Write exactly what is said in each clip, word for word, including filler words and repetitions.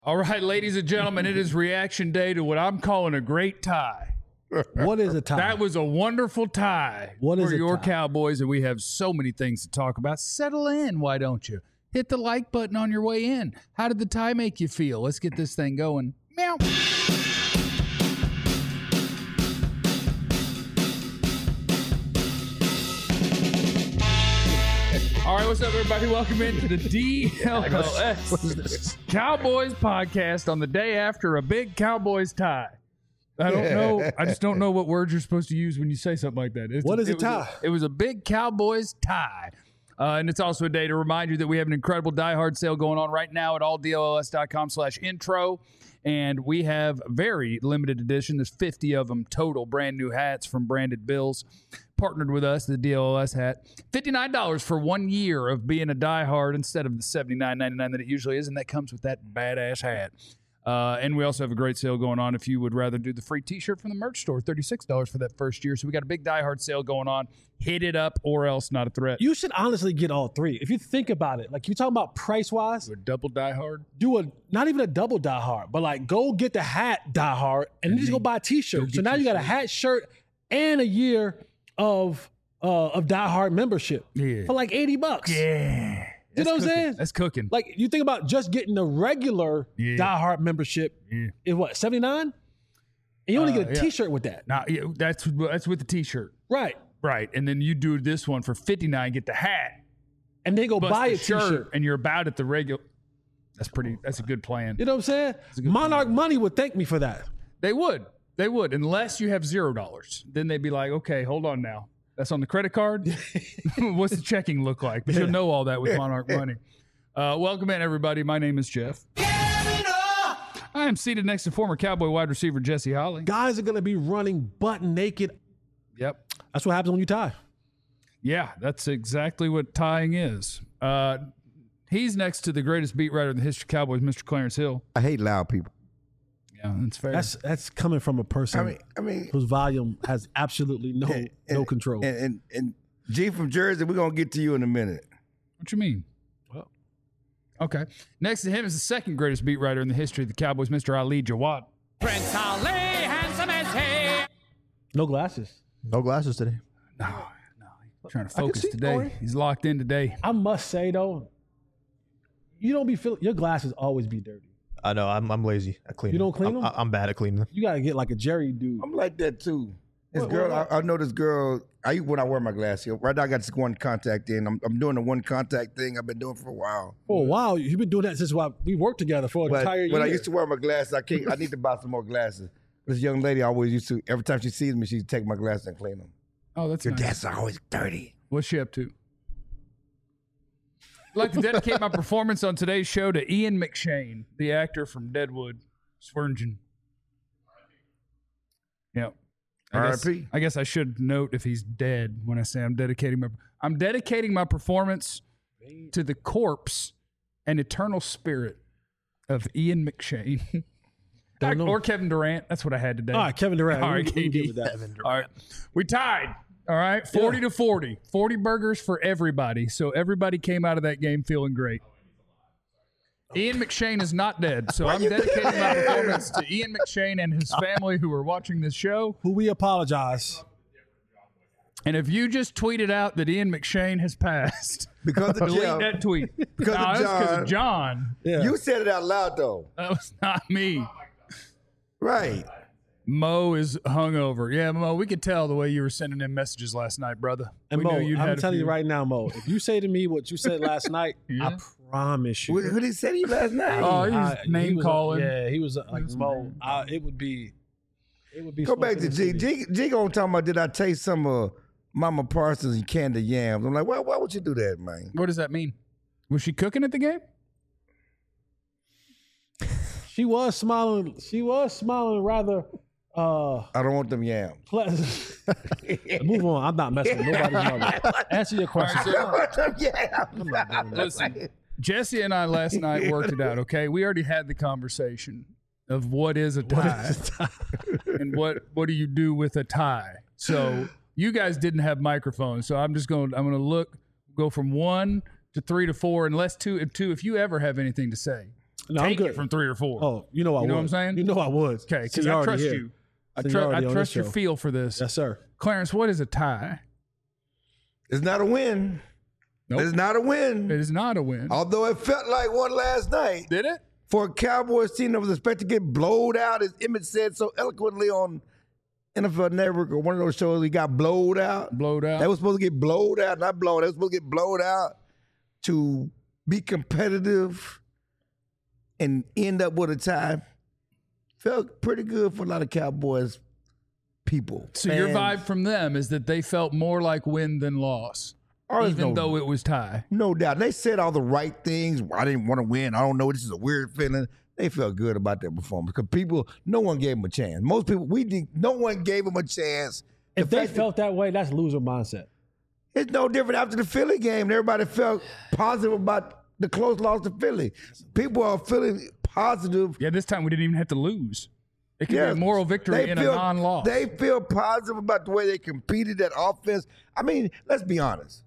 All right, ladies and gentlemen, it is reaction day to what I'm calling a great tie. What is a tie? That was a wonderful tie What is for a your tie? Cowboys, and we have so many things to talk about. Settle in, why don't you? Hit the like button on your way in. How did the tie make you feel? Let's get this thing going. Meow. All right, what's up, everybody? Welcome into the D L S Cowboys podcast on the day after a big Cowboys tie. I don't know. I just don't know what words you're supposed to use when you say something like that. It's What a, is a it was tie? it was a big Cowboys tie. Uh, and it's also a day to remind you that we have an incredible Die Hard sale going on right now at all D L S dot com slash intro. And we have very limited edition. There's fifty of them total, brand new hats from Branded Bills. Partnered with us, the D L S hat. fifty-nine dollars for one year of being a Die Hard instead of the seventy-nine ninety-nine that it usually is. And that comes with that badass hat. Uh, and we also have a great sale going on if you would rather do the free t-shirt from the merch store, thirty-six dollars for that first year. So we got a big Die Hard sale going on. Hit it up or else not a threat. You should honestly get all three. If you think about it, like you're talking about price wise, Do a double Die Hard. do a not even a double Die Hard, but like go get the hat Die Hard and then just go buy a t-shirt. get So now your you got a shirt. hat, shirt, and a year of uh, of Die Hard membership Yeah. for like eighty bucks. Yeah. You know what I'm cooking. saying? That's cooking. Like you think about just getting the regular Yeah. Die Hard membership Yeah. is what, seventy-nine? And you only Uh, get a yeah. t-shirt with that. Now, yeah, that's that's with the t-shirt. Right. Right. And then you do this one for fifty-nine, get the hat, And then go bust buy the a t-shirt. shirt, and you're about at the regular. That's pretty, that's a good plan. You know what I'm saying? Monarch Money would thank me for that. They would. They would, unless you have zero dollars. Then they'd be like, okay, hold on now. That's on the credit card? What's the checking look like? But you'll know all that with Monarch Money. Uh, welcome in, everybody. My name is Jeff. I am seated next to former Cowboy wide receiver Jesse Holly. Guys are going to be running butt naked. Yep. That's what happens when you tie. Yeah, that's exactly what tying is. Uh, he's next to the greatest beat writer in the history of Cowboys, Mister Clarence Hill. I hate loud people. Yeah, that's fair. That's that's coming from a person I mean, I mean, whose volume has absolutely no and- no and- control. And, and and G from Jersey, we're gonna get to you in a minute. What you mean? Well. Okay. Next to him is the second greatest beat writer in the history of the Cowboys, Mister Ali Jawad. Prince Ali, handsome as he. No glasses. No glasses today. No, no, he's trying to can focus see, today. Corey. He's locked in today. I must say though, you don't be feeling your glasses always be dirty. I know. I'm I'm lazy. I clean. You them. don't clean I'm, them? I'm bad at cleaning them. You gotta get like a Jerry dude. I'm like that too. This What- girl, what- I, I know this girl. I when I wear my glasses. Right now, I got this one contact in. I'm, I'm doing the one contact thing I've been doing for a while. For a while, you've been doing that since while we worked together for an But entire year. when I used to wear my glasses, I can't. I need to buy some more glasses. This young lady always used to. Every time she sees me, she'd take my glasses and clean them. Oh, that's Your nice. glasses are always dirty. What's she up to? I'd like to dedicate my performance on today's show to Ian McShane, the actor from Deadwood, Swearingen. Yep. I guess- R I P I guess I should note if he's dead when I say I'm dedicating my I'm dedicating my performance to the corpse and eternal spirit of Ian McShane. Don't know. Or Kevin Durant. That's what I had today. All right, Kevin Durant. All right, we, we can K D. get with that. All right. We tied. All right. forty to forty. forty burgers for everybody. So everybody came out of that game feeling great. Ian McShane is not dead. So I'm dedicating my performance to Ian McShane and his family who are watching this show. Who we apologize. And if you just tweeted out that Ian McShane has passed, because of delete Jeff. that tweet. Because no, of that's because John. of John. Yeah. You said it out loud though, That was not me. right? Mo is hungover. Yeah, Mo, we could tell the way you were sending him messages last night, brother. And we Mo, knew you'd I'm had a telling you few. right now, Mo, if you say to me what you said last night, Yeah. I promise you. What, what did he say to you last night? Oh, he's I- he name was, calling. Yeah, he was uh, like was Mo. name I, it would be, it would be. Go back to smoking G. in the city. G. G gonna talk about did I taste some of Mama Parsons and candy yams? I'm like, why? Why would you do that, man? What does that mean? Was she cooking at the game? She was smiling. She was smiling rather uh, I don't want them yams. pleasant. Move on. I'm not messing with nobody's mother. Answer your question. I don't want them yams. I'm not doing that. Listen, Jesse and I last night worked it out, okay? We already had the conversation of what is a tie and what what do you do with a tie. So you guys didn't have microphones, so I'm just going I'm going to look go from one to three to four, unless two if two if you ever have anything to say. No, I'm take good. it from three or four. Oh, you know I You would. know what I'm saying? You know I would. Okay, because I Seniority trust here. you. I, tr- Seniority I on trust this your show. feel for this. Yes, sir. Clarence, what is a tie? It's not a win. Nope. It's not a win. It is not a win. Although it felt like one last night. Did it? For a Cowboys team that was expected to get blowed out, as Emmett said so eloquently on N F L Network or one of those shows, he got blowed out. Blowed out. They were supposed to get blowed out, not blown. They were supposed to get blowed out to be competitive and end up with a tie. Felt pretty good for a lot of Cowboys people. So your fans. vibe from them is that they felt more like win than loss, Oh, there's even no- though it was tie. No doubt. They said all the right things. I didn't want to win. I don't know. This is a weird feeling. They felt good about their performance because people, no one gave them a chance. Most people, we did, no one gave them a chance. The If they fact that- felt that way, that's loser mindset. It's no different after the Philly game. Everybody felt positive about the close loss to Philly. People are feeling positive. Yeah, this time we didn't even have to lose. It could Yeah, be a moral victory they in feel- a non-loss. They feel positive about the way they competed that offense. I mean, let's be honest.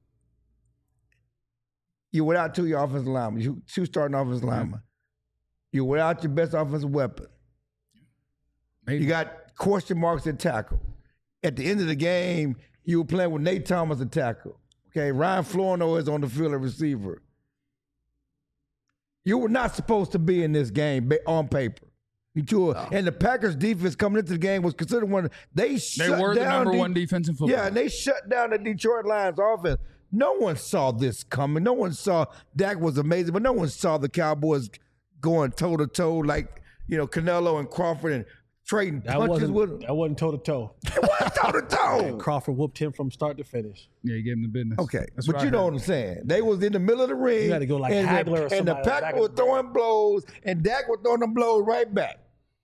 You're without two of your offensive linemen, you, two starting offensive linemen. You're without your best offensive weapon. Maybe. You got question marks at tackle. At the end of the game, you were playing with Nate Thomas at tackle. Okay, Ryan Florno is on the field at receiver. You were not supposed to be in this game ba- on paper. You two are- And the Packers defense coming into the game was considered one of they They shut were the down number De- one defense in football. Yeah, and they shut down the Detroit Lions offense. No one saw this coming. No one saw Dak was amazing, but no one saw the Cowboys going toe to toe like, you know, Canelo and Crawford and trading That punches wasn't with them. that wasn't toe to toe. toe to toe. Crawford whooped him from start to finish. Yeah, you gave him the business. Okay, That's but what you I know heard. what I'm saying. They was in the middle of the ring. You gotta go like and Hagler the, or And the somebody back Packers in were the- throwing blows, and Dak was throwing them blows right back.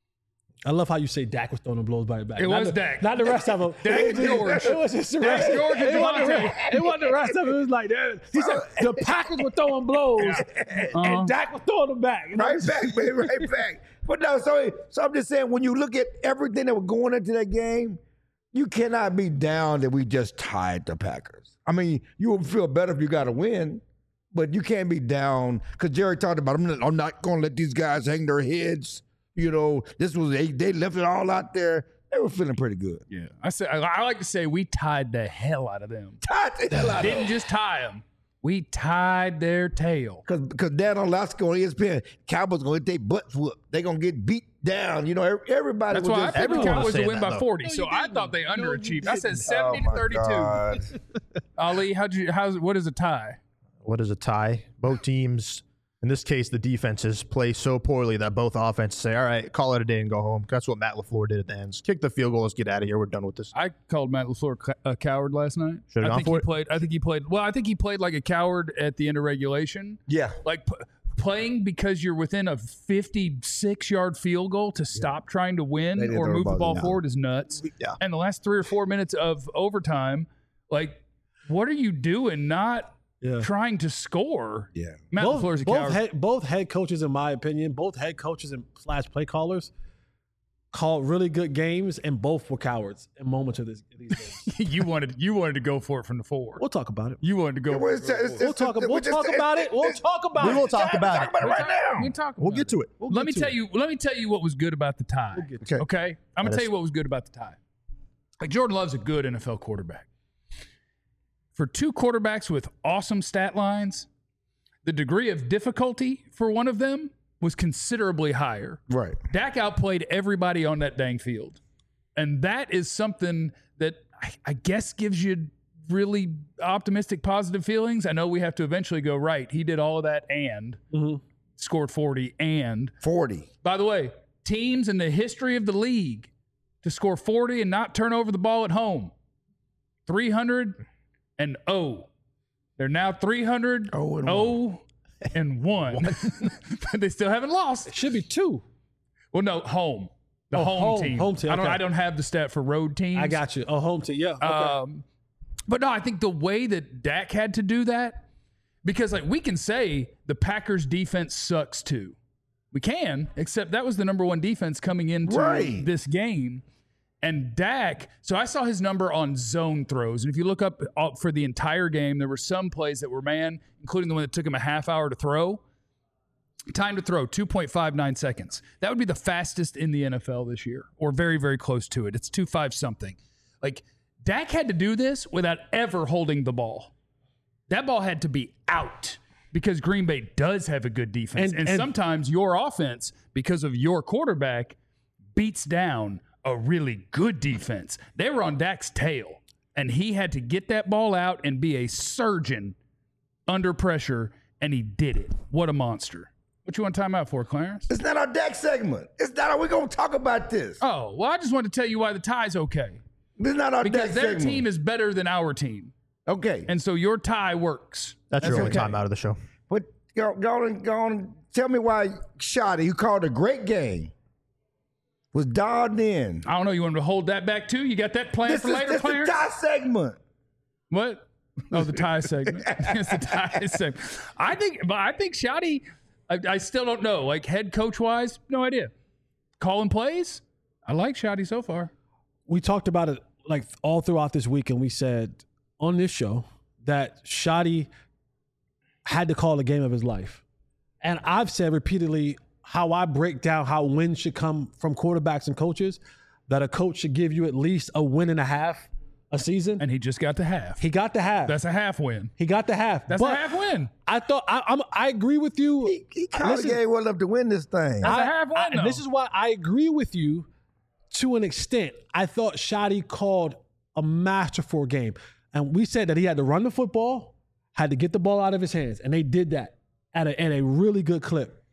I love how you say Dak was throwing the blows by the back. It not was the, Dak. Not the rest of them. Dak it, was, George. it was just the Dak rest. George and it, wasn't the Devontae. rest, it wasn't the rest of it. It was like that. He said the Packers were throwing blows, Uh-huh. and Dak was throwing them back. You know? Right back, baby, right back. But no, so, so I'm just saying, when you look at everything that was going into that game, you cannot be down that we just tied the Packers. I mean, you would feel better if you got a win, but you can't be down because Jerry talked about, I'm not, I'm not going to let these guys hang their heads. You know, this was they, they left it all out there. They were feeling pretty good. Yeah, I say I, I like to say we tied the hell out of them. Tied the hell out of Didn't just tie them. We tied their tail. Because because Dan Orlovsky on E S P N, Cowboys going to get their butts whooped. They're going to get beat down. You know, every- everybody That's was why I just picked the everyone was Cowboys to saying win that, by though. forty. No, so you I didn't. thought they No, you underachieved. I said didn't. seventy Oh, to my thirty-two. God. Ali, how'd you? How's what is a tie? What is a tie? Both teams, in this case, the defenses play so poorly that both offenses say, all right, call it a day and go home. That's what Matt LaFleur did at the end. Kick the field goal. Let's get out of here. We're done with this. I called Matt LaFleur ca- a coward last night. Should've I gone think for he it. played. I think he played. Well, I think he played like a coward at the end of regulation. Yeah. Like p- playing because you're within a fifty-six yard field goal to stop trying to They win didn't or throw the move the ball ball down. forward is nuts. Yeah. And the last three or four minutes of overtime, like, what are you doing? Not Yeah. trying to score. Yeah. Matt both, LaFleur's a both coward. head, both head coaches, in my opinion, both head coaches and slash play callers called really good games, and both were cowards in moments of this, these games. you wanted you wanted to go for it from the four. We'll talk about it. You wanted to go. Well, it's- it's- We'll it's- talk. it's- We'll it's- talk it's- about it. We'll it's- talk about We it. will talk about Talk it. about it right now. We talk We'll about get to it. We'll let get me to tell it. you. Let me tell you what was good about the tie. We'll get to Okay. Okay, I'm gonna Let tell us- you what was good about the tie. Like Jordan Love's a good N F L quarterback. For two quarterbacks with awesome stat lines, the degree of difficulty for one of them was considerably higher. Right. Dak outplayed everybody on that dang field. And that is something that I, I guess gives you really optimistic, positive feelings. I know we have to eventually go, right, he did all of that and Mhm. scored forty. And forty. by the way, teams in the history of the league to score forty and not turn over the ball at home, three hundred and oh. They're now three hundred, Oh and oh, and one. But they still haven't lost. It should be two. Well, no, home. The Oh, home, home- team. home team, I don't. okay. I don't have the stat for road teams. I got you. Oh, home team. Yeah. Okay. Um, but no, I think the way that Dak had to do that, because like we can say the Packers defense sucks too. We can, except that was the number one defense coming into Right. this game. And Dak, so I saw his number on zone throws. And if you look up uh, for the entire game, there were some plays that were man, including the one that took him a half hour to throw. Time to throw, two point five nine seconds. That would be the fastest in the N F L this year, or very, very close to it. It's two five something. Like, Dak had to do this without ever holding the ball. That ball had to be out because Green Bay does have a good defense. And, And- and and- sometimes your offense, because of your quarterback, beats down a really good defense. They were on Dak's tail, and he had to get that ball out and be a surgeon under pressure, and he did it. What a monster. What you want time out for, Clarence? It's not our deck segment. It's not. We're gonna talk about this. Oh, well, I just wanted to tell you why the tie's okay. This is not our Because deck their segment. team is better than our team. Okay. And so your tie works. That's, your only okay. time out of the show. But go, go on, go on. Tell me why Shoddy, you called a great game, was dialed in. I don't know. You want me to hold that back too? You got that planned This for is later, this is Clarence? tie segment. What? Oh, the tie segment. It's the tie segment. I think, but I think Shoddy, I, I still don't know. Like head coach wise, no idea. Calling plays, I like Shoddy so far. We talked about it like all throughout this week, and we said on this show that Shoddy had to call the game of his life. And I've said repeatedly how I break down how wins should come from quarterbacks and coaches, that a coach should give you at least a win and a half a season. And he just got the half. He got the half. That's a half win. he got the half. That's but a half win. I thought I, I'm, I agree with you. He, he called Listen, the game well enough to win this thing. That's a I- half win, I- and though. this is why I agree with you to an extent. I thought Shoddy called a masterful game. And we said that he had to run the football, had to get the ball out of his hands, and they did that at a, at a really good clip.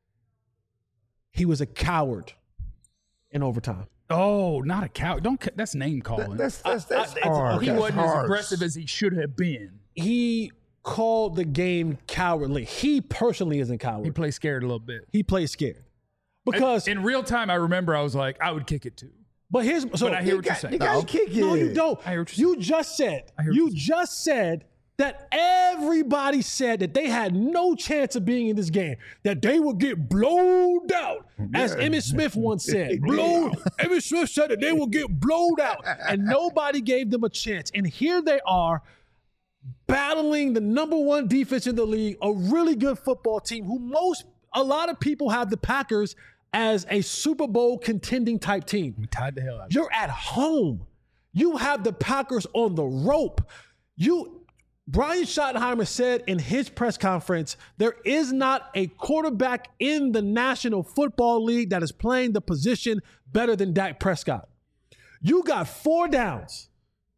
He was a coward in overtime. Oh, not a cow. Don't. ca- That's name calling. That's that's that's I- I- hard. he That's wasn't as harsh. aggressive as he should have been. He called the game cowardly. He personally isn't He coward. played scared a little bit. He plays scared. Because, in real time, I remember I was like, I would kick it too. but here's, so But I hear You what you're got, saying. you got to kick it. No, you don't. I hear what you're You just said, I hear what you you're saying. just said that everybody said that they had no chance of being in this game, that they would get blown out. As Emmitt Smith once said, blown. Emmitt Smith said that they would get blown out, and nobody gave them a chance. And here they are, battling the number one defense in the league, a really good football team who most, a lot of people have the Packers as a Super Bowl contending type team. We tied the hell out of it. You're at home. You have the Packers on the rope. You, Brian Schottenheimer said in his press conference, there is not a quarterback in the National Football League that is playing the position better than Dak Prescott. You got four downs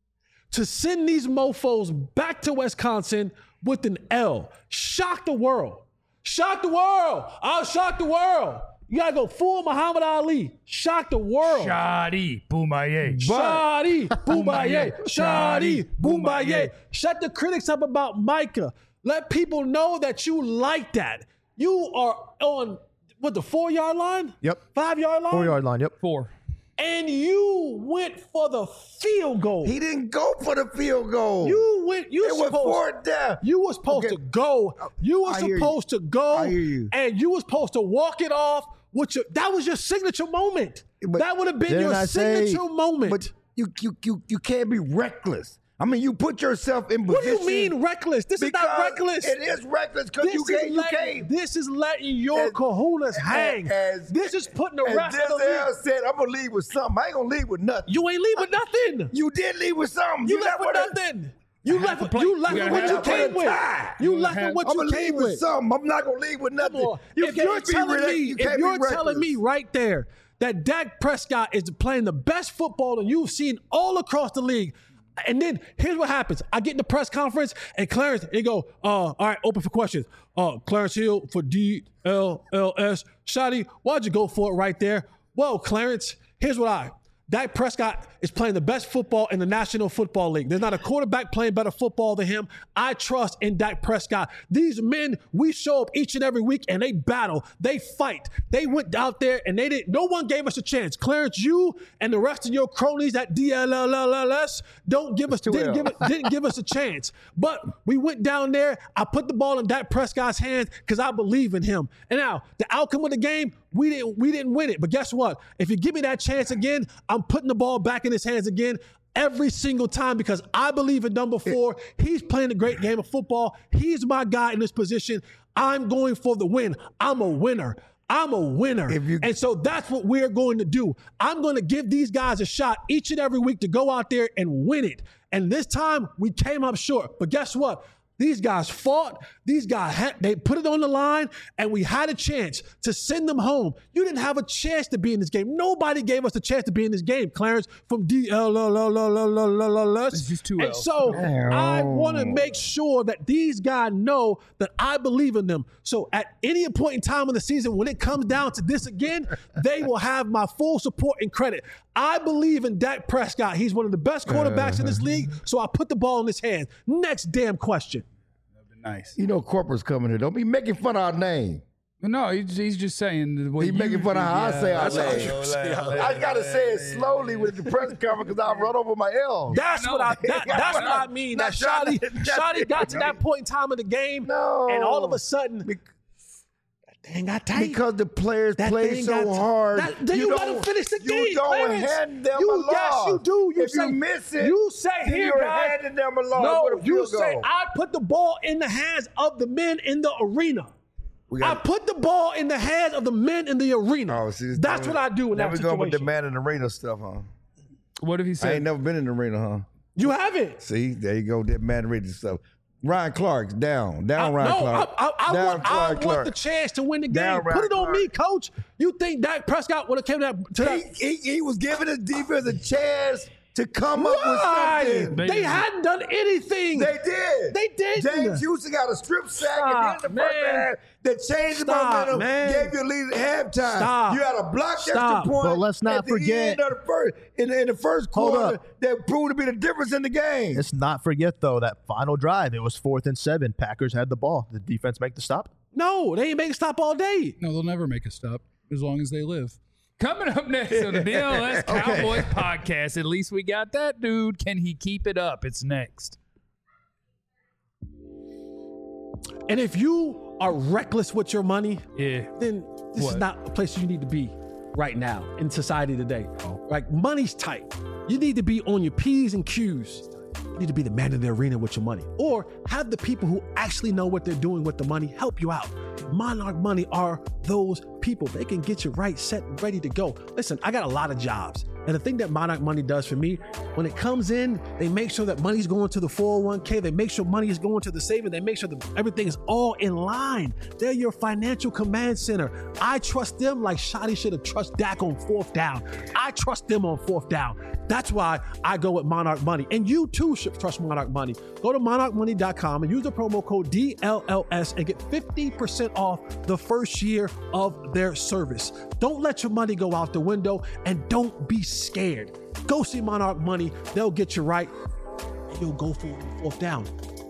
to send these mofos back to Wisconsin with an L. Shock the world. Shock the world. I'll shock the world. You gotta go full Muhammad Ali. Shock the world. Shoddy, Boomaye. Shadi, Boomaye, Shadi, Boomaye. Shut the critics up about Micah. Let people know that you like that. You are on, what, the four-yard line? Yep. Five-yard line? Four yard line. Yep. Four. And you went for the field goal. He didn't go for the field goal. You went, you it was supposed, fourth down. you was supposed Okay. to go. You were I hear you. supposed to go. I hear you. And you were supposed to walk it off. With your, that was your signature moment. But that would have been didn't your I say- signature moment. But you, you you you can't be reckless. I mean, you put yourself in What do position. you mean reckless? This is not because reckless. It is reckless because This you is can't. You letting- can't. This is letting your As- kahunas hang. as- this is putting the As rest of the Denzel league. said, I'm gonna leave with something. I ain't gonna leave with nothing. You ain't leaving nothing. You did leave with something. You left with with nothing. You left, to with- play. you left You with gotta what have you to play came the with. tie. You You left have- with what I'm you gonna came leave with with. something. I'm not gonna leave with Come nothing. on. You If you're can't be telling re- me, you if can't you're be telling me reckless. right there that Dak Prescott is playing the best football that you've seen all across the league, and then here's what happens: I get in the press conference, and Clarence, they go, uh, "All right, open for questions." Uh, Clarence Hill for D L L S. Shotty, why'd you go for it right there? Well, Clarence, here's what I. Dak Prescott is playing the best football in the National Football League. There's not a quarterback playing better football than him. I trust in Dak Prescott. These men, we show up each and every week and they battle. They fight. They went out there and they didn't, no one gave us a chance. Clarence, you and the rest of your cronies at D L L S don't give us, didn't give, it, didn't give us a chance. But we went down there. I put the ball in Dak Prescott's hands because I believe in him. And now, the outcome of the game, we didn't, we didn't win it. But guess what? If you give me that chance again, I'm putting the ball back in his hands again. every single time because I believe in number four. He's playing a great game of football. He's my guy in this position. I'm going for the win. I'm a winner. I'm a winner. You, and so that's what we're going to do. I'm going to give these guys a shot each and every week to go out there and win it. And this time we came up short. But guess what? These guys fought. These guys, had, they put it on the line, and we had a chance to send them home. You didn't have a chance to be in this game. Nobody gave us a chance to be in this game, Clarence, from D L L L L L L L S. It's just two And so I want to make sure that these guys know that I believe in them. So at any point in time in the season, when it comes down to this again, they will have my full support and credit. I believe in Dak Prescott. He's one of the best quarterbacks in this league, so I put the ball in his hands. Next damn question. Nice. You know, corporate's coming here. Don't be making fun of our name. No, he's, he's just saying. The way He's you, making fun of how yeah, I say our that's name. I got to say it slowly with the press conference because I run over my L. That's what I. That, that's what I mean. That Shotty, Shotty got to that point in time of the game, No. and all of a sudden, that thing got tight. Because the players That play thing so got- hard. That- then you let don't- them finish the you game, You don't Clarence. hand them You- a loss. yes, you do. You if say- you miss it, you say, then here, you're guys. handing them a loss No, with a you field say goal. I put the ball in the hands of the men in the arena. We I got- put the ball in the hands of the men in the arena. Oh, see, That's what I do in Now that we situation. going with the man in the arena stuff, huh? What if he I said? ain't never been in the arena, huh? You haven't. See, there you go, that man in the arena stuff. Ryan Clark's down. Down, I, Ryan no, Clark. I, I, I, down, want, I Ryan want Clark. the chance to win the game. Down, Put Ryan it on Clark. me, coach. You think Dak Prescott would have came to that? To that? He, he, he was giving his defense a chance to come up Why? with something. They hadn't done anything. They did. They did. James Houston got a strip sack Stop, at the end of the first man. half that changed the Stop, momentum, man. gave you a lead at halftime. Stop. You had a blocked Stop. extra point. But let's not at the forget- end of the first, in, the, in the first Hold quarter up. that proved to be the difference in the game. Let's not forget, though, that final drive. It was fourth and seven. Packers had the ball. Did the defense make the stop? No, they ain't making stop all day. No, they'll never make a stop as long as they live. Coming up next on the D L S Cowboys podcast. At least we got that dude. Can he keep it up? It's next. And if you are reckless with your money, Yeah. then this What? is not a place you need to be right now in society today. Like, money's tight. You need to be on your P's and Q's. You need to be the man in the arena with your money. Or have the people who actually know what they're doing with the money help you out. Monarch Money are those people. They can get you right, set, and ready to go. Listen, I got a lot of jobs. And the thing that Monarch Money does for me, when it comes in, they make sure that money's going to the four oh one k. They make sure money is going to the savings. They make sure that everything is all in line. They're your financial command center. I trust them like Shotty should have trusted Dak on fourth down. I trust them on fourth down. That's why I go with Monarch Money. And you too should trust Monarch Money. Go to monarch money dot com and use the promo code D L L S and get fifty percent off the first year of their service. Don't let your money go out the window, and don't be scared. Go see Monarch Money. They'll get you right, and you'll go for fourth down.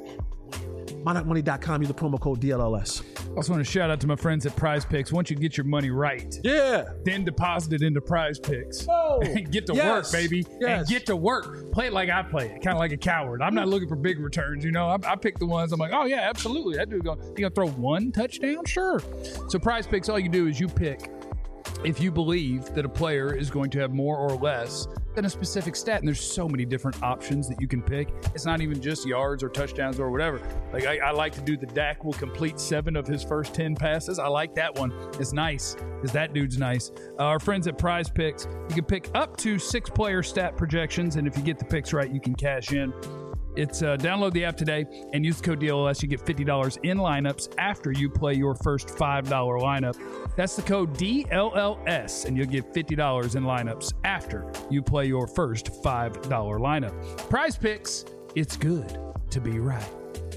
monarch money dot com, use the promo code D L L S. Also want to shout out to my friends at Prize Picks. Once you get your money right, Yeah. then deposit it into Prize Picks. Oh, and get to yes, work, baby. yes. And get to work. Play it like I play it, kind of like a coward. I'm not looking for big returns, you know. I, I pick the ones I'm like, oh yeah, absolutely. That dude going, he gonna throw one touchdown? Sure. So Prize Picks, all you do is you pick if you believe that a player is going to have more or less than a specific stat. And there's so many different options that you can pick. It's not even just yards or touchdowns or whatever. Like I, I like to do the Dak will complete seven of his first ten passes. I like that one. It's nice because that dude's nice. Uh, our friends at Prize Picks, you can pick up to six player stat projections. And if you get the picks right, you can cash in. It's uh, download the app today and use the code D L L S. You get fifty dollars in lineups after you play your first five dollar lineup. That's the code D L L S, and you'll get fifty dollars in lineups after you play your first five dollar lineup. Prize Picks, it's good to be right.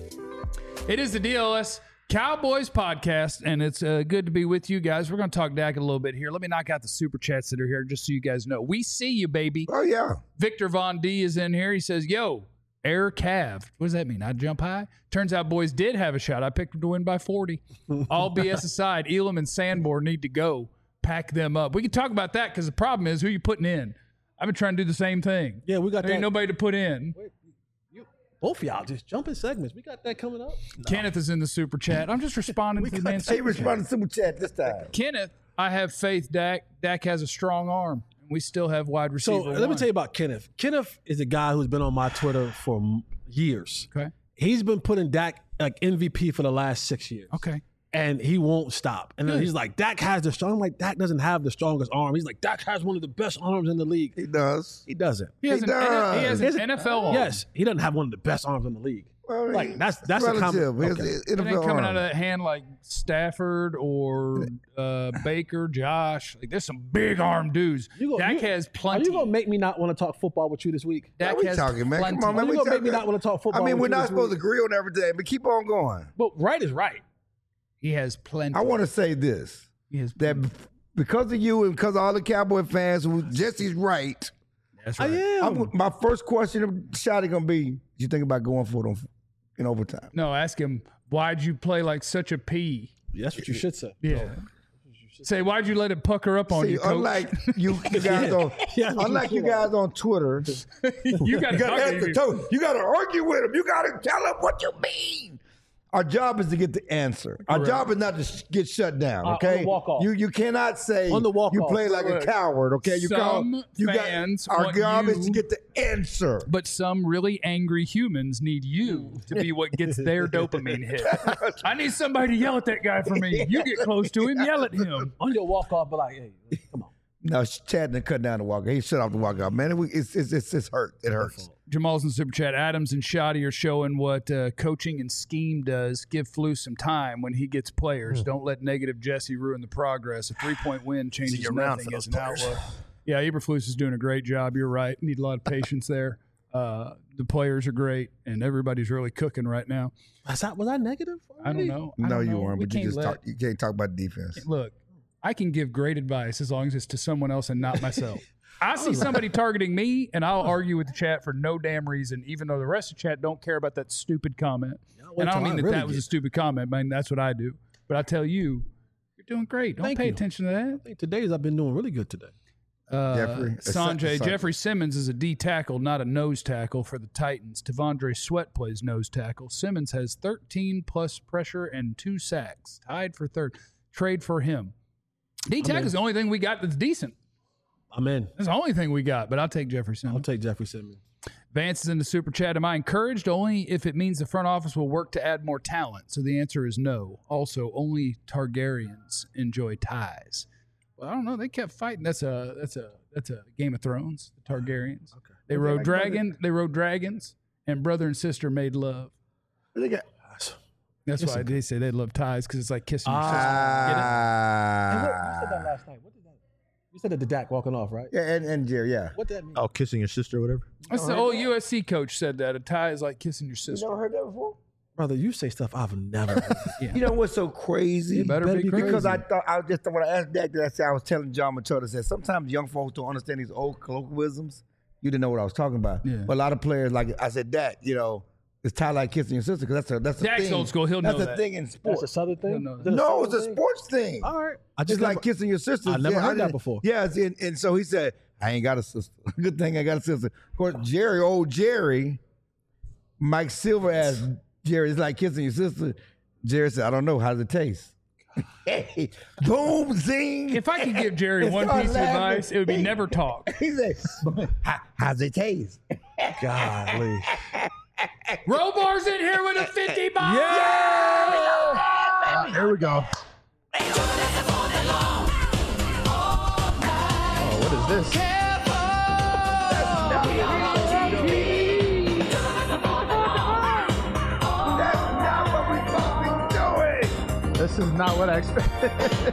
It is the D L S Cowboys podcast, and it's uh, good to be with you guys. We're going to talk Dak a little bit here. Let me knock out the super chats that are here just so you guys know. We see you, baby. Oh, yeah. Victor Von D is in here. He says, yo, air calved. What does that mean? I jump high? Turns out boys did have a shot. I picked them to win by forty. All B S aside, Elam and Sanborn need to go. Pack them up. We can talk about that because the problem is who you putting in. I've been trying to do the same thing. Yeah, we got There ain't that. nobody to put in. Both of y'all just jumping segments. We got that coming up. Kenneth is in the super chat. I'm just responding to the man's He super chat. responded to super chat this time. Kenneth, I have faith Dak. Dak has a strong arm. We still have wide receiver. So let me one. tell you about Kenneth. Kenneth is a guy who's been on my Twitter for m- years. Okay. He's been putting Dak like M V P for the last six years. Okay. And he won't stop. And then Good. he's like, Dak has the strong. I'm like, Dak doesn't have the strongest arm. He's like, Dak has one of the best arms in the league. He does. He doesn't. He has, He an, N- he has does. an N F L arm. Yes, he doesn't have one of the best arms in the league. Well, Like, that's that's a relative. comment. His- Okay. his It N F L ain't coming arm. out of that hand like Stafford or uh, Baker, Josh. Like there's some big arm dudes. You gonna- Dak you- has Are plenty. you gonna make me not want to talk football with you this week? Dak What we has talking, man? plenty. Come on, man. You We gonna make me talking- not want to talk football? I mean, with we're you not this supposed week? to agree on everything, but keep on going. But right is right. He has plenty. I want to say this. He has That because of you and because of all the Cowboy fans, who Jesse's right. That's I right. am. I'm, my first question to Shotty gonna be: you think about going for it on, in overtime? No, ask him why'd you play like such a P? That's what you should say. Yeah. Say why'd you let it pucker up on See, you, coach? unlike you, you guys on, Yeah, unlike you guys on Twitter, you got you gotta, to answer, you gotta argue with him. You gotta tell him what you mean. Our job is to get the answer. Our Correct. job is not to sh- get shut down. Uh, on Okay, the walk-off. you you cannot say On the walk-off. you play like Look, a coward. Okay, you some call you fans got our want job is you- to get the answer. But some really angry humans need you to be what gets their dopamine hit. I need somebody to yell at that guy for me. You get close to him, yell at him. On your walk off, but like, hey, come on. No, Chad didn't cut down the walk. He shut off the walkout. Man, it, it's, it's it's it's hurt. It hurts. Jamal's in Super Chat. Adams and Shoddy are showing what uh, coaching and scheme does. Give Flus some time when he gets players. Don't let negative Jesse ruin the progress. A three-point win changes Easy around nothing for as those an players. outlook. Yeah, Eberflus is doing a great job. You're right. Need a lot of patience there. Uh, the players are great, and everybody's really cooking right now. Was that, was I negative? I don't know. I No, don't you know. weren't. We But you can't just let- talk. You can't talk about defense. Look, I can give great advice as long as it's to someone else and not myself. I see somebody targeting me, and I'll argue with the chat for no damn reason, even though the rest of the chat don't care about that stupid comment. wait And I don't till mean I that really that was a get- stupid comment, man. That's what I do. But I tell you, you're doing great. Don't Thank pay you. attention to I think today's I've been doing really good today. that. Uh, Jeffrey, Sanjay, Sanjay. Jeffrey Simmons is a D tackle, not a nose tackle for the Titans. Devondre Sweat plays nose tackle. Simmons has thirteen plus pressure and two sacks, tied for third. Trade for him. D tackle is the only thing we got that's decent. I'm in. That's the only thing we got, but I'll take Jeffrey Simmons. I'll take Jeffrey Simmons. Vance is in the super chat. Am I encouraged? Only if it means the front office will work to add more talent. So the answer is no. Also, only Targaryens enjoy ties. Well, I don't know. They kept fighting. That's a that's a that's a Game of Thrones. The Targaryens. Okay. They rode like dragon. They rode dragons, and brother and sister made love. They got- That's why they say they love ties because it's like kissing your sister. And what, you Ah, said that last night. What did that? You said that the Dak walking off, right? yeah, and, and Jerry, yeah. What did that mean? Oh, kissing your sister or whatever. That's the old U S C coach said that a tie is like kissing your sister. never heard that before? Brother, you say stuff I've never heard. You know what's so crazy? You better, better be be crazy. Because I thought I was just when I asked Dak that I said I was telling John Machado said sometimes young folks don't understand these old colloquialisms. You didn't know what I was talking about. Yeah. But a lot of players, like I said, Dak, you know, it's tied like kissing your sister because that's a that's a Dak's thing. old school. He'll that's know a that. thing in That's a sports. Southern thing? No, no. Is it No, it's a Southern thing? sports thing. All right. I Just just like never, kissing your sister. I never Yeah, heard that didn't- before. Yeah, it's in, and so he said, I ain't got a sister. Good thing I got a sister. Of course, Jerry, old Jerry, Mike Silver asked Jerry, it's like kissing your sister. Jerry said, I don't know. How does it taste? Hey, boom, zing. If I could give Jerry And one start piece of laughing. advice, it would be never talk. He said, "How- how's it taste? golly. Robar's in here with a fifty ball. Ah, here we go. Oh, what is this? That's not what we supposed to be doing. This is not what I expected.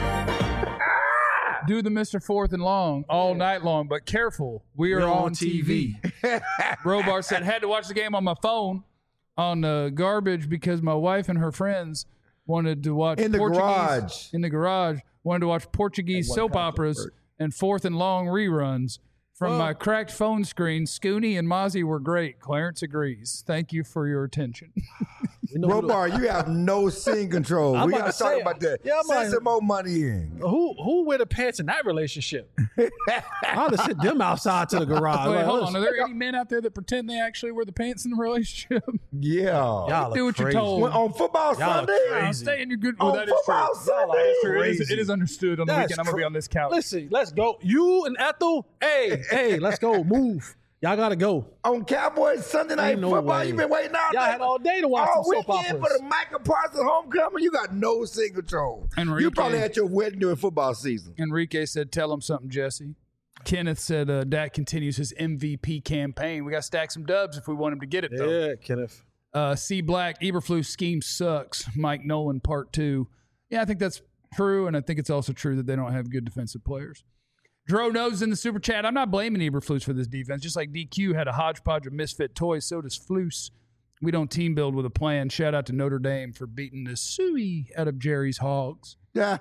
Do the Mister Fourth and Long all night long, but careful. We are We're on, on T T V. Robar said, had to watch the game on my phone on uh, garbage because my wife and her friends wanted to watch In the Portuguese garage. in the garage, wanted to watch Portuguese soap operas and Fourth and Long reruns. From my cracked phone screen, Scooney and Mozzie were great. Clarence agrees. Thank you for your attention. We know who the- Robar, you have no scene control. I'm we about got to to talk say, about that. yeah, I'm Send like- some more money in. Who who wear the pants in that relationship? I'll just sit them outside to the garage. Wait, Like, hold on. listen, Are there any men out there that pretend they actually wear the pants in the relationship? Yeah. Y'all Do are what you're crazy. told. When- on football Y'all are Sunday? crazy. I'll stay in your good. Well, On that is true. football Sunday? That is true. It is, Crazy. it is understood on the That's weekend. I'm gonna be cra- on this couch. Listen, let's go. You and Ethel, hey, hey, let's go. Move. Y'all gotta go. On Cowboys Sunday night Ain't no football, way. you been waiting all Y'all day. had all day to watch all some soap weekend operas. for the Michael Parsons homecoming. You got no scene control. Enrique. You probably had your wedding during football season. Enrique said, "Tell him something, Jesse." Kenneth said, uh, "Dak continues his M V P campaign. We got to stack some dubs if we want him to get it, though." Yeah, Kenneth. Uh, C. Black, Eberflus scheme sucks. Mike Nolan, part two. Yeah, I think that's true, and I think it's also true that they don't have good defensive players. Dro knows in the super chat, I'm not blaming Eberflus for this defense. Just like D Q had a hodgepodge of misfit toys, so does Flus. We don't team build with a plan. Shout out to Notre Dame for beating the suey out of Jerry's Hogs. Yeah.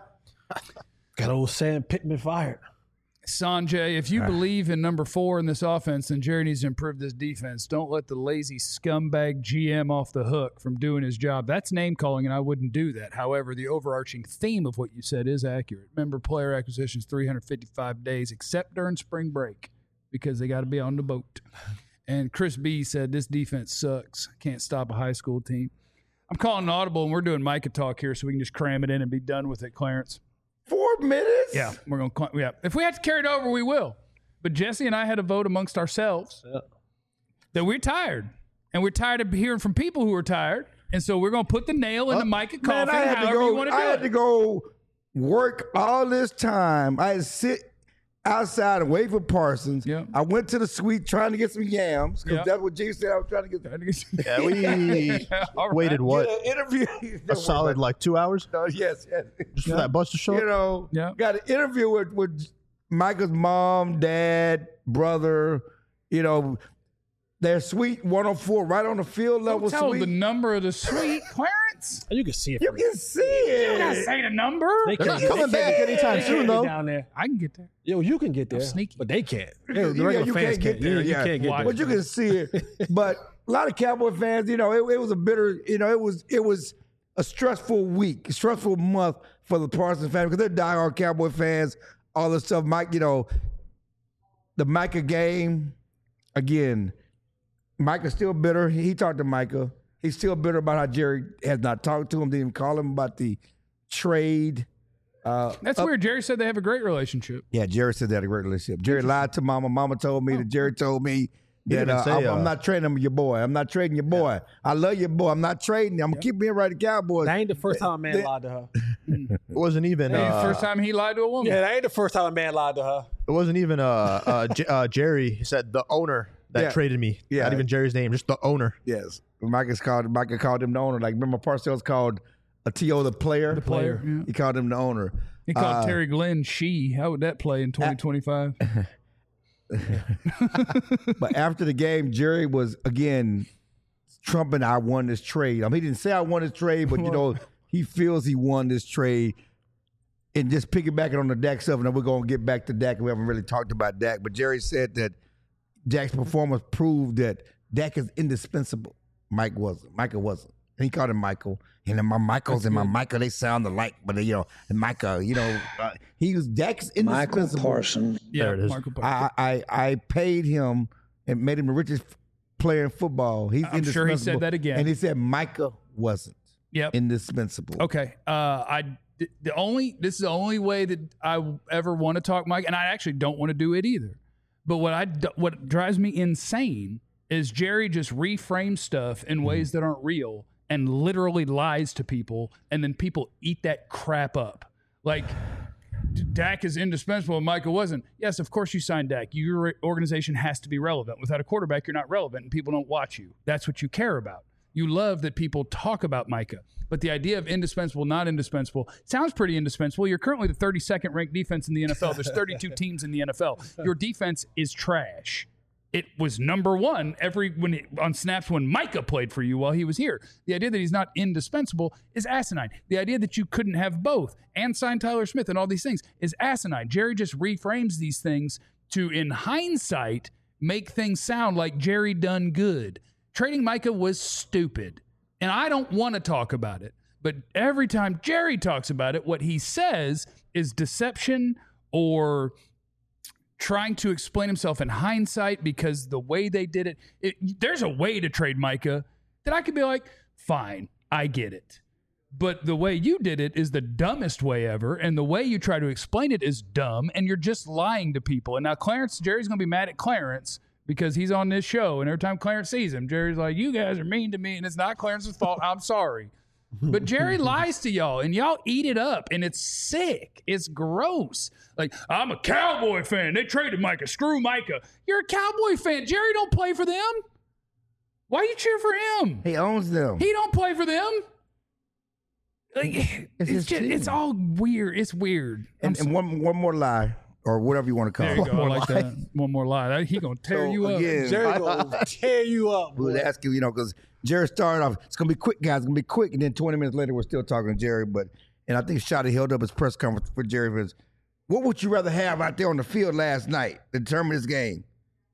Got old Sam Pittman fired. Sanjay, if you believe in number four in this offense, then Jerry needs to improve this defense. Don't let the lazy scumbag G M off the hook from doing his job. That's name calling, and I wouldn't do that. However, the overarching theme of what you said is accurate. Remember, player acquisitions three hundred fifty-five days, except during spring break, because they got to be on the boat. And Chris B said, this defense sucks. Can't stop a high school team. I'm calling an audible, and we're doing Micah talk here so we can just cram it in and be done with it, Clarence. Four minutes? Yeah, we're going to, yeah. If we have to carry it over, we will. But Jesse and I had a vote amongst ourselves Yeah. that we're tired. And we're tired of hearing from people who are tired. And so we're going to put the nail in the Micah Man, coffin I had to however you go. want to I do had it. to go work all this time. I had to sit outside and wait for Parsons. Yeah. I went to the suite trying to get some yams because Yeah. that's what G said. I was trying to get. Yeah, we All right. waited what Get an interview. a solid like two hours No, yes, yes. just for that bus to show You up. know, Yeah. got an interview with, with Michael's mom, dad, brother. You know, their suite one oh four, right on the field level Don't tell suite. the number of the suite, Clarence. You can see it. you from can see it. Say the number. They They're not can't- coming they back can't- anytime they soon, can't though. get down there. I can get there. Yo, you can get there, sneaky. but they can't. Yeah, the Yeah, regular you fans can't get there. Yeah, Yeah, you can't get Why? there. But you can see it. But a lot of Cowboy fans, you know, it, it was a bitter, you know, it was it was a stressful week, a stressful month for the Parsons family because they're diehard Cowboy fans. All this stuff, Mike, you know, the Micah game again. Micah's still bitter. He, he talked to Micah. He's still bitter about how Jerry has not talked to him. Didn't even call him about the trade. Uh, That's weird. Jerry said they have a great relationship. Yeah, Jerry said they had a great relationship. Jerry lied to Mama. Mama told me that Jerry told me that didn't uh, say, I'm, I'm uh, not trading him your boy. I'm not trading your boy. I love your boy. I'm not trading him. I'm keeping him right at the Cowboys. That ain't the first time a man lied to her. It wasn't even. Hey, Uh, first time he lied to a woman. Yeah, that ain't the first time a man lied to her. It wasn't even uh, uh, J- uh, Jerry. He said the owner that Yeah. traded me. Yeah. Not even Jerry's name, just the owner. Yes. Micah's called, Micah called him the owner. Like, remember Parcells called a T O the player? The player, yeah. He called him the owner. He called Uh, Terry Glenn she. How would that play in twenty twenty-five? But after the game, Jerry was, again, trumping, I won this trade. I mean, he didn't say I won this trade, but, you know, he feels he won this trade. And just piggybacking on the Dak stuff, and then we're going to get back to Dak. We haven't really talked about Dak, but Jerry said that Dak's performance proved that Dak is indispensable. Mike wasn't. Micah wasn't. And he called him Michael. And then my Michaels and my Michael, they sound alike, but, they, you know, and Micah, you know, uh, he was Dak's indispensable. Michael Parsons. Yeah, There it is. Michael Parker. I, I I paid him and made him the richest player in football. He's I'm sure he said indispensable. that again. And he said Micah wasn't Yep. indispensable. Okay. Uh, I the only this is the only way that I ever want to talk Mike, and I actually don't want to do it either. But what I do- what drives me insane is Jerry just reframes stuff in ways that aren't real and literally lies to people, and then people eat that crap up. Like Dak is indispensable and Micah wasn't. Yes, of course you signed Dak. Your organization has to be relevant. Without a quarterback, you're not relevant, and people don't watch you. That's what you care about. You love that people talk about Micah. But the idea of indispensable, not indispensable, sounds pretty indispensable. You're currently the thirty-second ranked defense in the N F L. There's thirty-two teams in the N F L. Your defense is trash. It was number one every when it, on snaps when Micah played for you while he was here. The idea that he's not indispensable is asinine. The idea that you couldn't have both and sign Tyler Smith and all these things is asinine. Jerry just reframes these things to, in hindsight, make things sound like Jerry done good. Trading Micah was stupid. And I don't want to talk about it. But every time Jerry talks about it, what he says is deception or trying to explain himself in hindsight because the way they did it, it there's a way to trade Micah that I could be like, fine, I get it. But the way you did it is the dumbest way ever, and the way you try to explain it is dumb, and you're just lying to people. And now Clarence, Jerry's going to be mad at Clarence because he's on this show, and every time Clarence sees him, Jerry's like, you guys are mean to me, and it's not Clarence's fault. I'm sorry. But Jerry lies to y'all, and y'all eat it up, and it's sick. It's gross. Like, I'm a Cowboy fan. They traded Micah. Screw Micah. You're a Cowboy fan. Jerry don't play for them. Why you cheer for him? He owns them. He don't play for them. Like, It's it's, his just, team. it's all weird. It's weird. And, and one one more lie, or whatever you want to call There you it. go. I like that. One more lie. He gonna tear So, you up. again, Jerry gonna tear you up. We boy. was asking, you know, because Jerry started off, it's going to be quick, guys. It's going to be quick. And then twenty minutes later, we're still talking to Jerry. But, and I think Shotty held up his press conference for Jerry. Was, what would you rather have out there on the field last night to determine this game?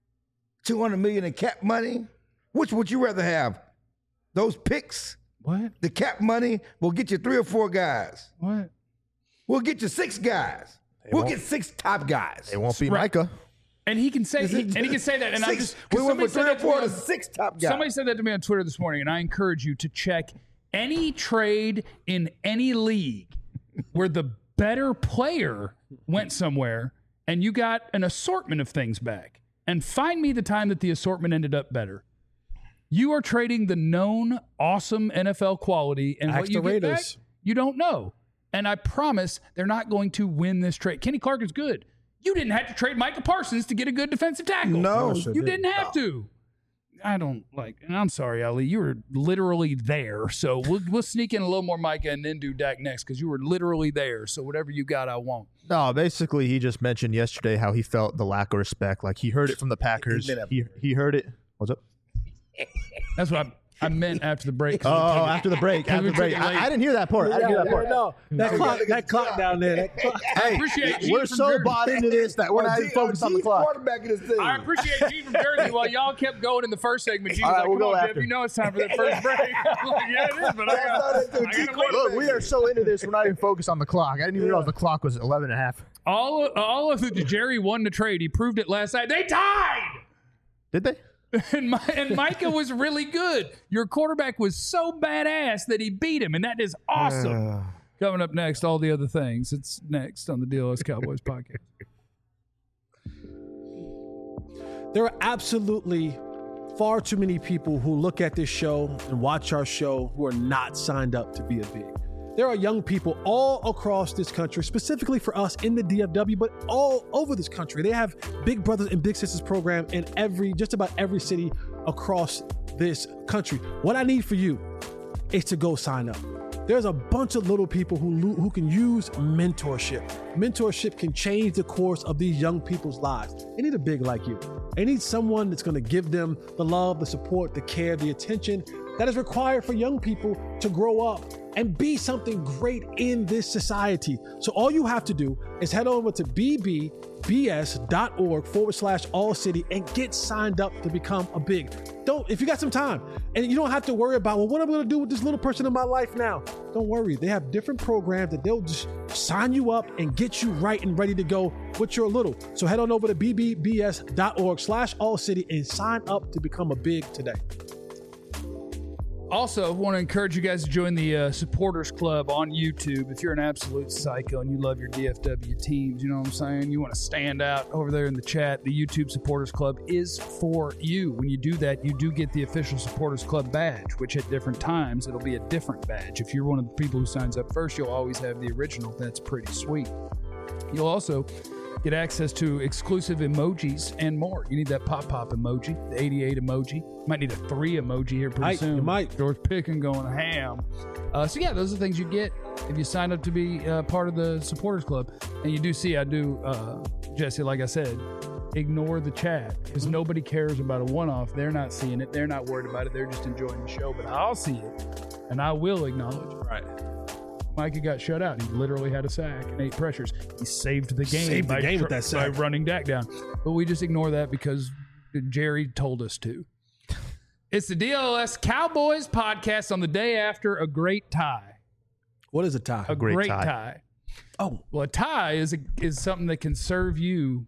two hundred million dollars in cap money? Which would you rather have? Those picks? What? The cap money will get you three or four guys. What? We'll get you six guys. we'll won't. get six top guys. It won't be Right. Micah. And he can say, he, and he can say that. And I Six- just, 'cause we went somebody from said three or that to me four to on- six top guys. Somebody said that to me on Twitter this morning, and I encourage you to check any trade in any league where the better player went somewhere and you got an assortment of things back. And find me the time that the assortment ended up better. You are trading the known awesome N F L quality, and Ask what you the get back, Raiders. you don't know. And I promise they're not going to win this trade. Kenny Clark is good. You didn't have to trade Micah Parsons to get a good defensive tackle. No. sure You did. didn't have to. I don't like, and I'm sorry, Ali. You were literally there. So we'll we'll sneak in a little more Micah and then do Dak next because you were literally there. So whatever you got, I want. No, basically, he just mentioned yesterday how he felt the lack of respect. Like he heard it from the Packers. been a- He he heard it. What's up? That's what I, I meant after the break. Oh, after the break. After the break. I, I didn't hear that part. I didn't hear that part. No, that clock, that clock down there. That clock. I appreciate G We're from so Jersey. bought into this that we're not G- even focused on the G's clock. quarterback in this thing. I appreciate G from Jersey while y'all kept going in the first segment. G was All right, like, we'll come go on, Jeff, after. you know it's time for that first break. I'm like, yeah, it is, but I That's how got they do. I G gotta wait. Look, we are so into this, we're not even focused on the clock. I didn't even realize the clock was eleven and a half. All of, all of the Jerry won the trade. He proved it last night. They tied. Did they? And, my, and Micah was really good. Your quarterback was so badass that he beat him, and that is awesome. Coming up next, all the other things. It's next on the D L S Cowboys podcast. There are absolutely far too many people who look at this show and watch our show who are not signed up to be a big. There are young people all across this country, specifically for us in the D F W, but all over this country. They have Big Brothers and Big Sisters program in every, just about every city across this country. What I need for you is to go sign up. There's a bunch of little people who lo- who can use mentorship. Mentorship can change the course of these young people's lives. They need a big like you. They need someone that's going to give them the love, the support, the care, the attention that is required for young people to grow up and be something great in this society. So all you have to do is head over to bbs.org forward slash all city and get signed up to become a big. Don't, if you got some time and you don't have to worry about, well, what am I going to do with this little person in my life now? Don't worry. They have different programs that they'll just sign you up and get you right and ready to go with your little. So head on over to bbbs.org slash all city and sign up to become a big today. Also, want to encourage you guys to join the uh, Supporters Club on YouTube. If you're an absolute psycho and you love your D F W teams, you know what I'm saying? You want to stand out over there in the chat. The YouTube Supporters Club is for you. When you do that, you do get the official Supporters Club badge, which at different times, it'll be a different badge. If you're one of the people who signs up first, you'll always have the original. That's pretty sweet. You'll also get access to exclusive emojis and more. You need that pop-pop emoji, the eighty-eight emoji. Might need a three emoji here pretty Might, soon. you might. George Picken going ham. Uh, so yeah, those are the things you get if you sign up to be uh, part of the Supporters Club. And you do see, I do, uh, Jesse, like I said, ignore the chat because nobody cares about a one-off. They're not seeing it. They're not worried about it. They're just enjoying the show. But I'll see it, and I will acknowledge it. Right. Micah got shut out. He literally had a sack and eight pressures. He saved the game, Saved the by, game with that sack. by running Dak down. But we just ignore that because Jerry told us to. It's the D L S Cowboys podcast on the day after a great tie. What is a tie? A great great, tie. tie. Oh, Well, a tie is a, is something that can serve you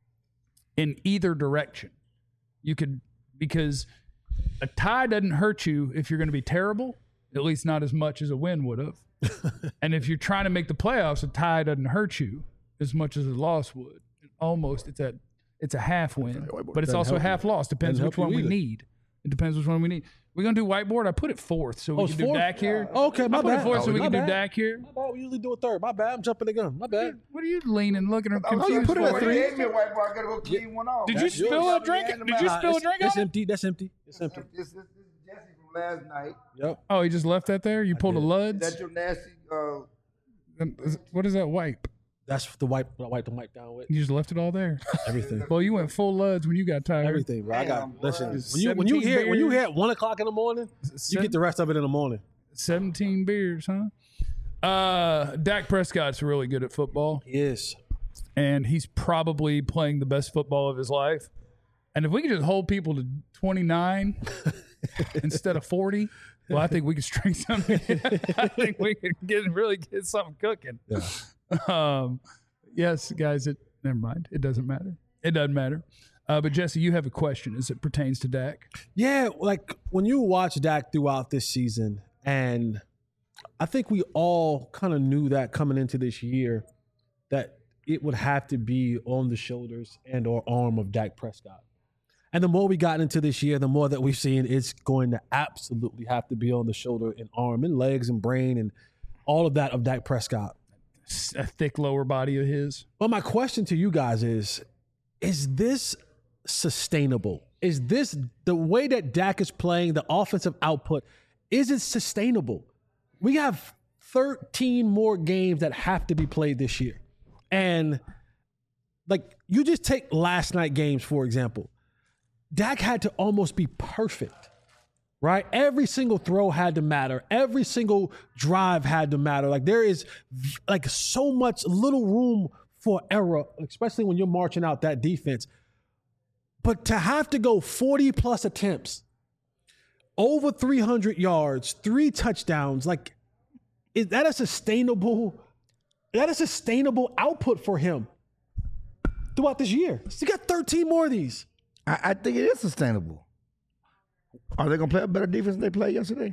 in either direction. You could, because a tie doesn't hurt you if you're going to be terrible, at least not as much as a win would have. And if you're trying to make the playoffs, a tie doesn't hurt you as much as a loss would. Almost, it's a it's a half win, but it's Doesn't also a help you. half loss. Depends Doesn't which help one you we either. need. It depends which one we need. We're gonna do whiteboard. I put it fourth, so we Oh, can it's do fourth? Dak here. Oh, okay, my I put bad. it fourth, so Oh, we my can do bad. Dak here. my bad. We usually do a third. My bad. I'm jumping the gun. My bad. What are you leaning, looking at Oh, you confused? put it for? at three. Gave me a white bar. I gotta go clean one off. Did you That's spill yours. a drink? Yeah, Did you nah, spill a it's, drink It's on it? empty. That's empty. It's empty. This, this, this is Jesse from last night. Yep. Oh, you just left that there? You pulled a Luds? That's your nasty. Uh, Um, is- What is that wipe? That's the wipe. I wipe the mic down with You just left it all there. everything. Well, you went full Luds when you got tired. Everything, bro. I got Damn, listen. boy. When you when you seventeen hear when you beers. hear at one o'clock in the morning, you get the rest of it in the morning. seventeen beers, huh? Uh, Dak Prescott's really good at football, Yes. and he's probably playing the best football of his life. And if we could just hold people to twenty-nine instead of forty, well, I think we could string something. I think we could get really get something cooking. Yeah. Um, yes, guys. It never mind. It doesn't matter. It doesn't matter. Uh, but Jesse, you have a question as it pertains to Dak. Yeah, like when you watch Dak throughout this season, and I think we all kind of knew that coming into this year that it would have to be on the shoulders and or arm of Dak Prescott. And the more we got into this year, the more that we've seen it's going to absolutely have to be on the shoulder and arm and legs and brain and all of that of Dak Prescott. A thick lower body of his. But my question to you guys is, is this sustainable? Is this the way that Dak is playing, the offensive output, is it sustainable? We have thirteen more games that have to be played this year. And like you just take last night games, for example. Dak had to almost be perfect. Right? Every single throw had to matter. Every single drive had to matter. Like there is like so much little room for error, especially when you're marching out that defense. But to have to go forty plus attempts, over three hundred yards, three touchdowns, like is that a sustainable, is that a sustainable output for him throughout this year? He got thirteen more of these. I, I think it is sustainable. Are they gonna play a better defense than they played yesterday?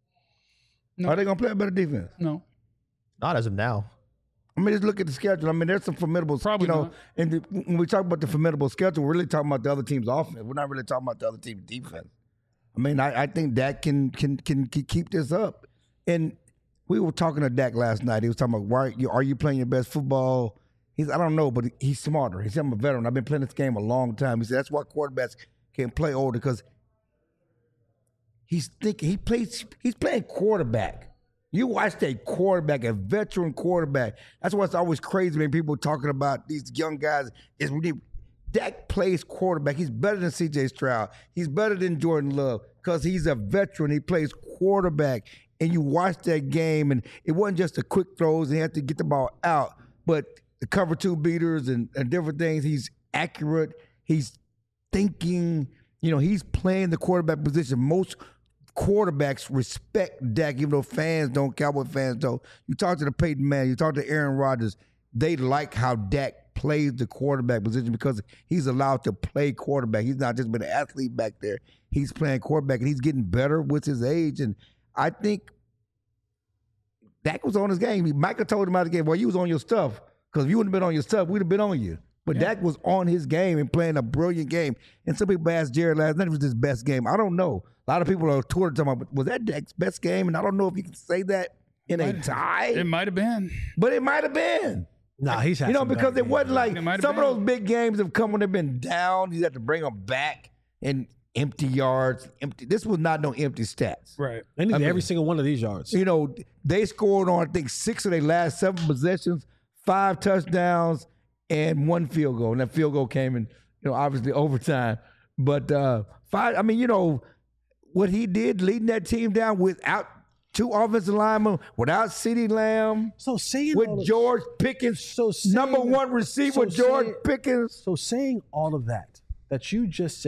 No. Are they gonna play a better defense? No. Not as of now. I mean, just look at the schedule. I mean, there's some formidable. Probably you know, not. and the, when we talk about the formidable schedule, we're really talking about the other team's offense. We're not really talking about the other team's defense. I mean, I, I think Dak can, can can can keep this up. And we were talking to Dak last night. He was talking about why are you, are you playing your best football? He's I don't know, but he's smarter. He said, I'm a veteran. I've been playing this game a long time. He said that's why quarterbacks can play older because he's thinking he plays. He's playing quarterback. You watch that quarterback, a veteran quarterback. That's why it's always crazy when people talking about these young guys. Is really Dak plays quarterback. He's better than C J Stroud. He's better than Jordan Love because he's a veteran. He plays quarterback. And you watch that game, and it wasn't just the quick throws, and he had to get the ball out, but the cover two beaters and, and different things. He's accurate. He's thinking, you know, he's playing the quarterback position. Most quarterbacks respect Dak, even though fans don't, Cowboy fans don't. You talk to the Peyton Manning, you talk to Aaron Rodgers, they like how Dak plays the quarterback position because he's allowed to play quarterback. He's not just been an athlete back there. He's playing quarterback, and he's getting better with his age. And I think Dak was on his game. Micah told him out of the game, well, you was on your stuff because if you wouldn't have been on your stuff, we'd have been on you. But yeah. Dak was on his game and playing a brilliant game. And some people asked Jared last night if it was his best game. I don't know. A lot of people are Twitter talking about, was that Dak's best game? And I don't know if you can say that in a tie. It might have been. But it might have been. Nah, he's had You know, some because bad it wasn't games. like It might have some been. of those big games have come when they've been down. You have to bring them back and empty yards. Empty. This was not no empty stats. Right. They need I mean- every single one of these yards. You know, they scored on, I think, six of their last seven possessions, five touchdowns, and one field goal. And that field goal came in, you know, obviously overtime. But uh, five, I mean, you know, what he did leading that team down without two offensive linemen, without CeeDee Lamb, So saying with all of- George Pickens, So saying- number one receiver, so George saying- Pickens. So saying all of that that you just said,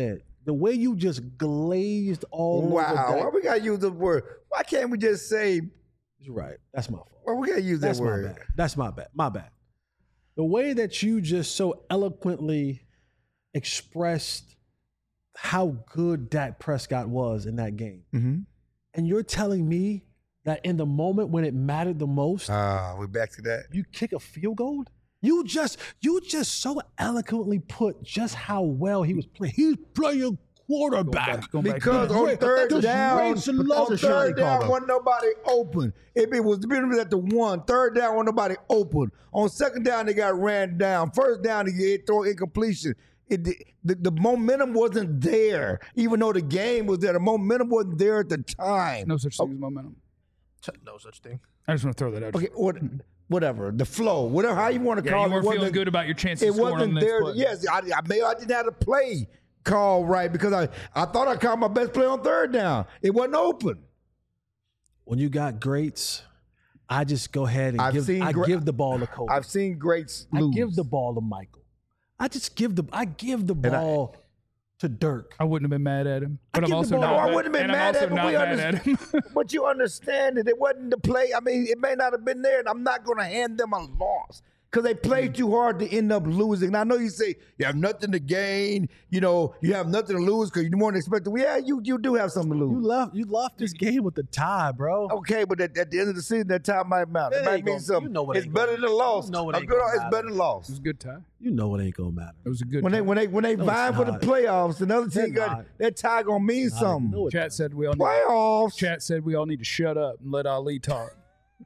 The way you just glazed all over Wow. Dak. Why we gotta use the word? Why can't we just say? You're right. That's my fault. Why we gotta use That's that my word? bad. That's my bad. My bad. The way that you just so eloquently expressed how good Dak Prescott was in that game. Mm-hmm. And you're telling me that in the moment when it mattered the most, Ah, we back to that. you kick a field goal? You just you just so eloquently put just how well he was playing. He's playing quarterback. Going back to Because that. on Great. third That's down, great to love on the shot he third down, called, wasn't nobody open. If it was been at the one, third down, wasn't nobody open. On second down, they got ran down. First down, they get throw incompletion. It, the, the momentum wasn't there, even though the game was there. The momentum wasn't there at the time. No such thing as momentum. No such thing. I just want to throw that out. Okay, what, whatever. The flow, whatever, how you want to Yeah, call you it. weren't feeling wasn't- good about your chances It of scoring on wasn't the next there. play. Yes, I, I maybe I didn't have to play call right because I, I thought I called my best play on third down. It wasn't open. When you got greats, I just go ahead and I've give seen I gra- give the ball to Kobe. I've seen greats I lose. give the ball to Michael. I just give the I give the I- ball to Dirk. I wouldn't have been mad at him, I but I'm give the also ball- not. No, I mad- wouldn't have been and I'm mad also at him. not We mad at him. But you understand that it wasn't the play. I mean, it may not have been there, and I'm not going to hand them a loss because they played too hard to end up losing. And I know you say you have nothing to gain. You know, you have nothing to lose because you weren't expecting. Well, yeah, you you do have something to You lose. left you left this game with the tie, bro. Okay, but at, at the end of the season, that time might matter. It It might ain't mean gonna- something. you know it it's ain't better gonna- than a loss. you know it A ain't good- gonna it's matter. better than a loss. It was a good tie. You know it ain't gonna matter. It was a good When tie. they when they when they No, vying it's for the not. playoffs, another team It's got not. that tie gonna mean something. No, it's Chat said we all need, Playoffs. Chat said we all need to shut up and let Ali talk.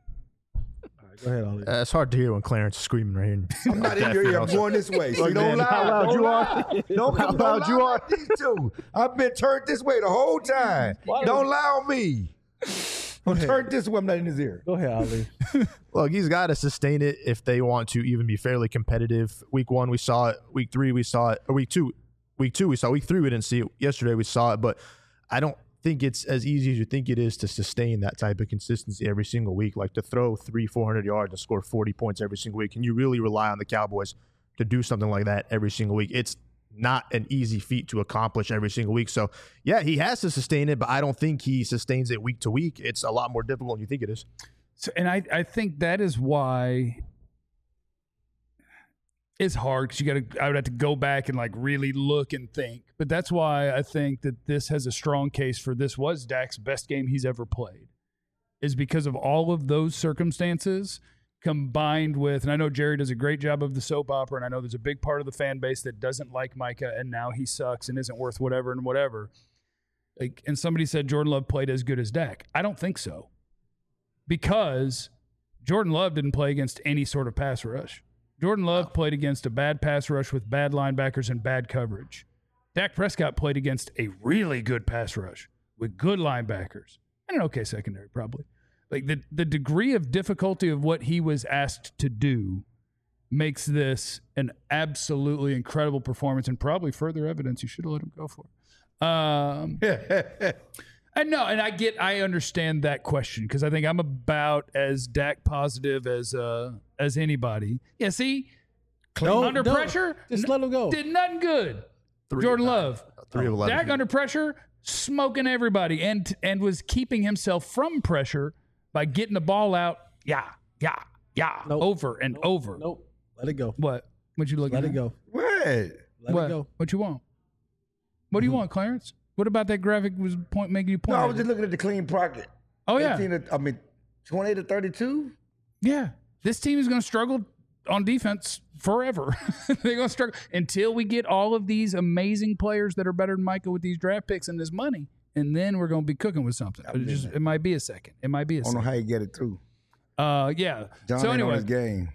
Go ahead, Ollie. Uh, it's hard to hear when Clarence is screaming right here. I'm not in your ear. I'm going this way. So Look, don't man, lie. how loud don't you lie. are. Don't, How don't loud lie you like these two. I've been turned this way the whole time. Don't lie on me. I'm turned this way. I'm not in his ear. Go ahead, Ali. Look, he's got to sustain it if they want to even be fairly competitive. Week one, we saw it. Week three, we saw it. Or week two, week two, we saw. Week three, we didn't see it. Yesterday, we saw it. But I don't think it's as easy as you think it is to sustain that type of consistency every single week. Like to throw three, four hundred yards and score forty points every single week. Can you really rely on the Cowboys to do something like that every single week? It's not an easy feat to accomplish every single week. So, yeah, he has to sustain it, but I don't think he sustains it week to week. It's a lot more difficult than you think it is. So, and I, I think that is why it's hard because you got to. I would have to go back and like really look and think. But that's why I think that this has a strong case for this was Dak's best game he's ever played, is because of all of those circumstances combined with. And I know Jerry does a great job of the soap opera, and I know there's a big part of the fan base that doesn't like Micah, and now he sucks and isn't worth whatever and whatever. Like, and somebody said Jordan Love played as good as Dak. I don't think so. Because Jordan Love didn't play against any sort of pass rush. Jordan Love played against a bad pass rush with bad linebackers and bad coverage. Dak Prescott played against a really good pass rush with good linebackers and an okay secondary, probably. Like the, the degree of difficulty of what he was asked to do makes this an absolutely incredible performance and probably further evidence you should have let him go for it. Um, And no, and I get, I understand that question because I think I'm about as Dak positive as uh, as anybody. Yeah, see, No, under no, pressure, just n- let him go. Did nothing good. Three Jordan of nine. Love, Three of eleven. Dak under pressure, smoking everybody, and and was keeping himself from pressure by getting the ball out. Yeah, yeah, yeah, Nope. over and over. Nope. Let it go. What? What you looking Let at? it go. What? Let what? it go. What you want? What do you want, Clarence? What about that graphic was point making you No, point? I at was it? just looking at the clean pocket. oh yeah, eighteen to, I mean, twenty to thirty-two. Yeah, this team is going to struggle on defense forever. They're going to struggle until we get all of these amazing players that are better than Micah with these draft picks and this money, and then we're going to be cooking with something. But it just it might be a second. It might be a I don't know second. how you get it through. Uh, yeah. John so ain't on anyway, his game.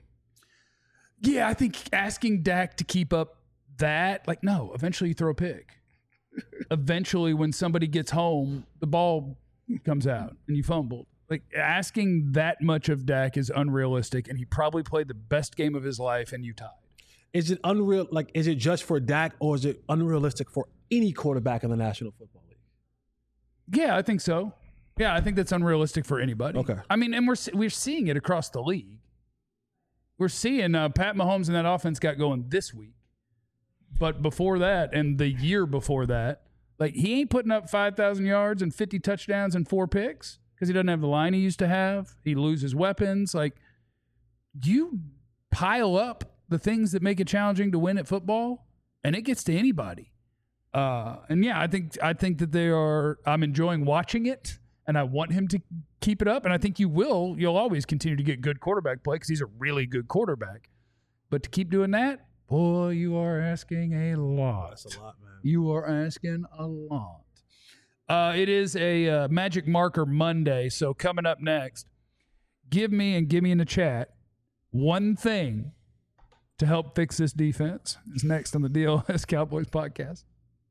yeah, I think asking Dak to keep up that, like, no, eventually you throw a pick. Eventually, when somebody gets home, the ball comes out and you fumbled. Like, asking that much of Dak is unrealistic, and he probably played the best game of his life, and you tied. Is it unreal? Like, is it just for Dak, or is it unrealistic for any quarterback in the National Football League? Yeah, I think so. Yeah, I think that's unrealistic for anybody. Okay. I mean, and we're we're seeing it across the league. We're seeing uh, Pat Mahomes and that offense got going this week. But before that, and the year before that, Like, he ain't putting up five thousand yards and fifty touchdowns and four picks because he doesn't have the line he used to have. He loses weapons. Like, you pile up the things that make it challenging to win at football, and it gets to anybody. Uh, and, yeah, I think I think that they are – I'm enjoying watching it, and I want him to keep it up. And I think you will. You'll always continue to get good quarterback play because he's a really good quarterback. But to keep doing that, boy, you are asking a lot. That's a lot, man. You are asking a lot. Uh, it is a uh, Magic Marker Monday, so coming up next, give me and give me in the chat one thing to help fix this defense. Is next on the D L S Cowboys podcast.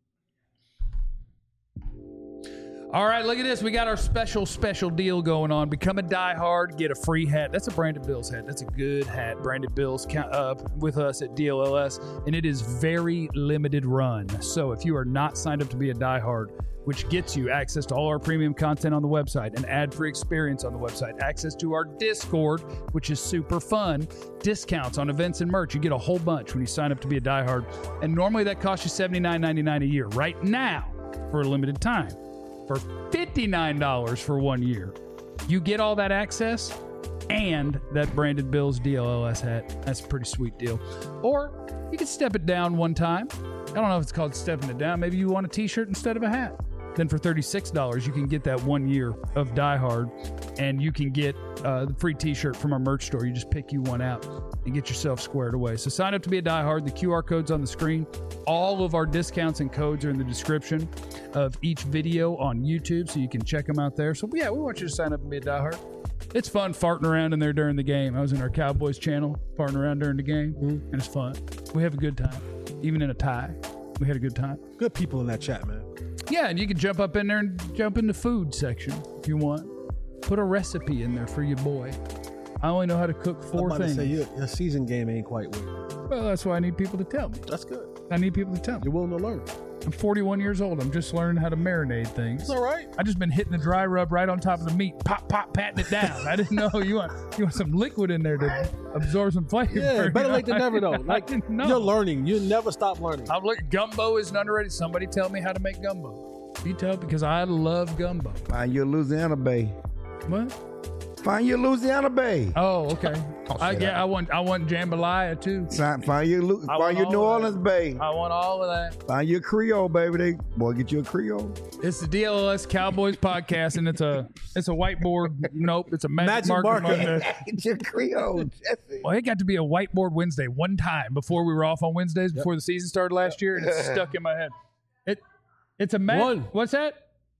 All right, look at this. We got our special, special deal going on. Become a diehard, get a free hat. That's a Brandon Bills hat. That's a good hat. Brandon Bills uh, with us at D L L S, and it is very limited run. So if you are not signed up to be a diehard, which gets you access to all our premium content on the website, an ad-free experience on the website, access to our Discord, which is super fun, discounts on events and merch. You get a whole bunch when you sign up to be a diehard, and normally that costs you seventy-nine ninety-nine a year. Right now, for a limited time, for fifty-nine dollars for one year, you get all that access and that Branded Bills D L L S hat. That's a pretty sweet deal. Or you can step it down one time. I don't know if it's called stepping it down. Maybe you want a t-shirt instead of a hat. Then for thirty-six dollars, you can get that one year of Die Hard, and you can get uh, the free t-shirt from our merch store. You just pick you one out and get yourself squared away. So sign up to be a Die Hard. The Q R code's on the screen. All of our discounts and codes are in the description of each video on YouTube, so you can check them out there. So yeah, we want you to sign up and be a Die Hard. It's fun farting around in there during the game. I was in our Cowboys channel farting around during the game, mm-hmm. and it's fun. We have a good time. Even in a tie, we had a good time. Good people in that chat, man. Yeah, and you can jump up in there and jump in the food section if you want. Put a recipe in there for your boy. I only know how to cook four I'm about things. To say, your, your season game ain't quite weird. Well, that's why I need people to tell me. That's good. I need people to tell me. You're willing to learn. I'm forty-one years old. I'm just learning how to marinate things. It's all right. I just been hitting the dry rub right on top of the meat. Pop, pop, patting it down. I didn't know you want you want some liquid in there to absorb some flavor. Yeah, better you late know? than never, though. I Like, didn't know. You're learning. You never stop learning. I'm looking. Gumbo is an underrated. Somebody tell me how to make gumbo. You tell because I love gumbo. Find your Louisiana Bay. What? Find your Louisiana Bay. Oh, okay. I, yeah, I want I want jambalaya too. Find, find your Lu- I find your want New all of Orleans Bay. I want all of that. Find your Creole, baby. They boy, get you a Creole. It's the D L L S Cowboys podcast, and it's a it's a whiteboard. Nope, it's a magic, Magic marker. marker. Monday. Get your Creole, Jesse. Well, it got to be a whiteboard Wednesday one time before we were off on Wednesdays before the season started last year, and it's stuck in my head. It it's a ma- One. What's that?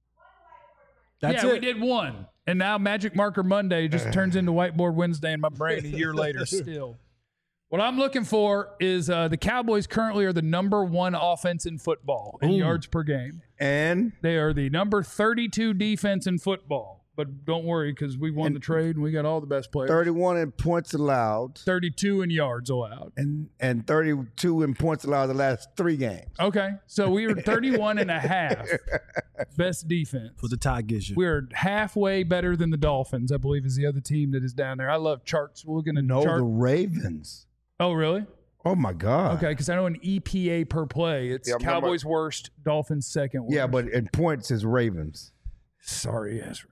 That's yeah, it. we did one. And now Magic Marker Monday just turns into Whiteboard Wednesday in my brain a year later still. What I'm looking for is uh, the Cowboys currently are the number one offense in football in Ooh. yards per game. And They are the number thirty-two defense in football. But don't worry because we won And the trade and we got all the best players. thirty-one in points allowed. thirty-two in yards allowed. And and thirty-two in points allowed the last three games. Okay. So we were thirty-one and a half best defense. What the tie gives you. We're halfway better than the Dolphins, I believe, is the other team that is down there. I love charts. We're going to No, chart. the Ravens. Oh, really? Oh my God. Okay, because I know an E P A per play, it's Yeah, I'm talking Cowboys worst, Dolphins second worst. Yeah, but in points is Ravens. Sorry, yes, Ravens.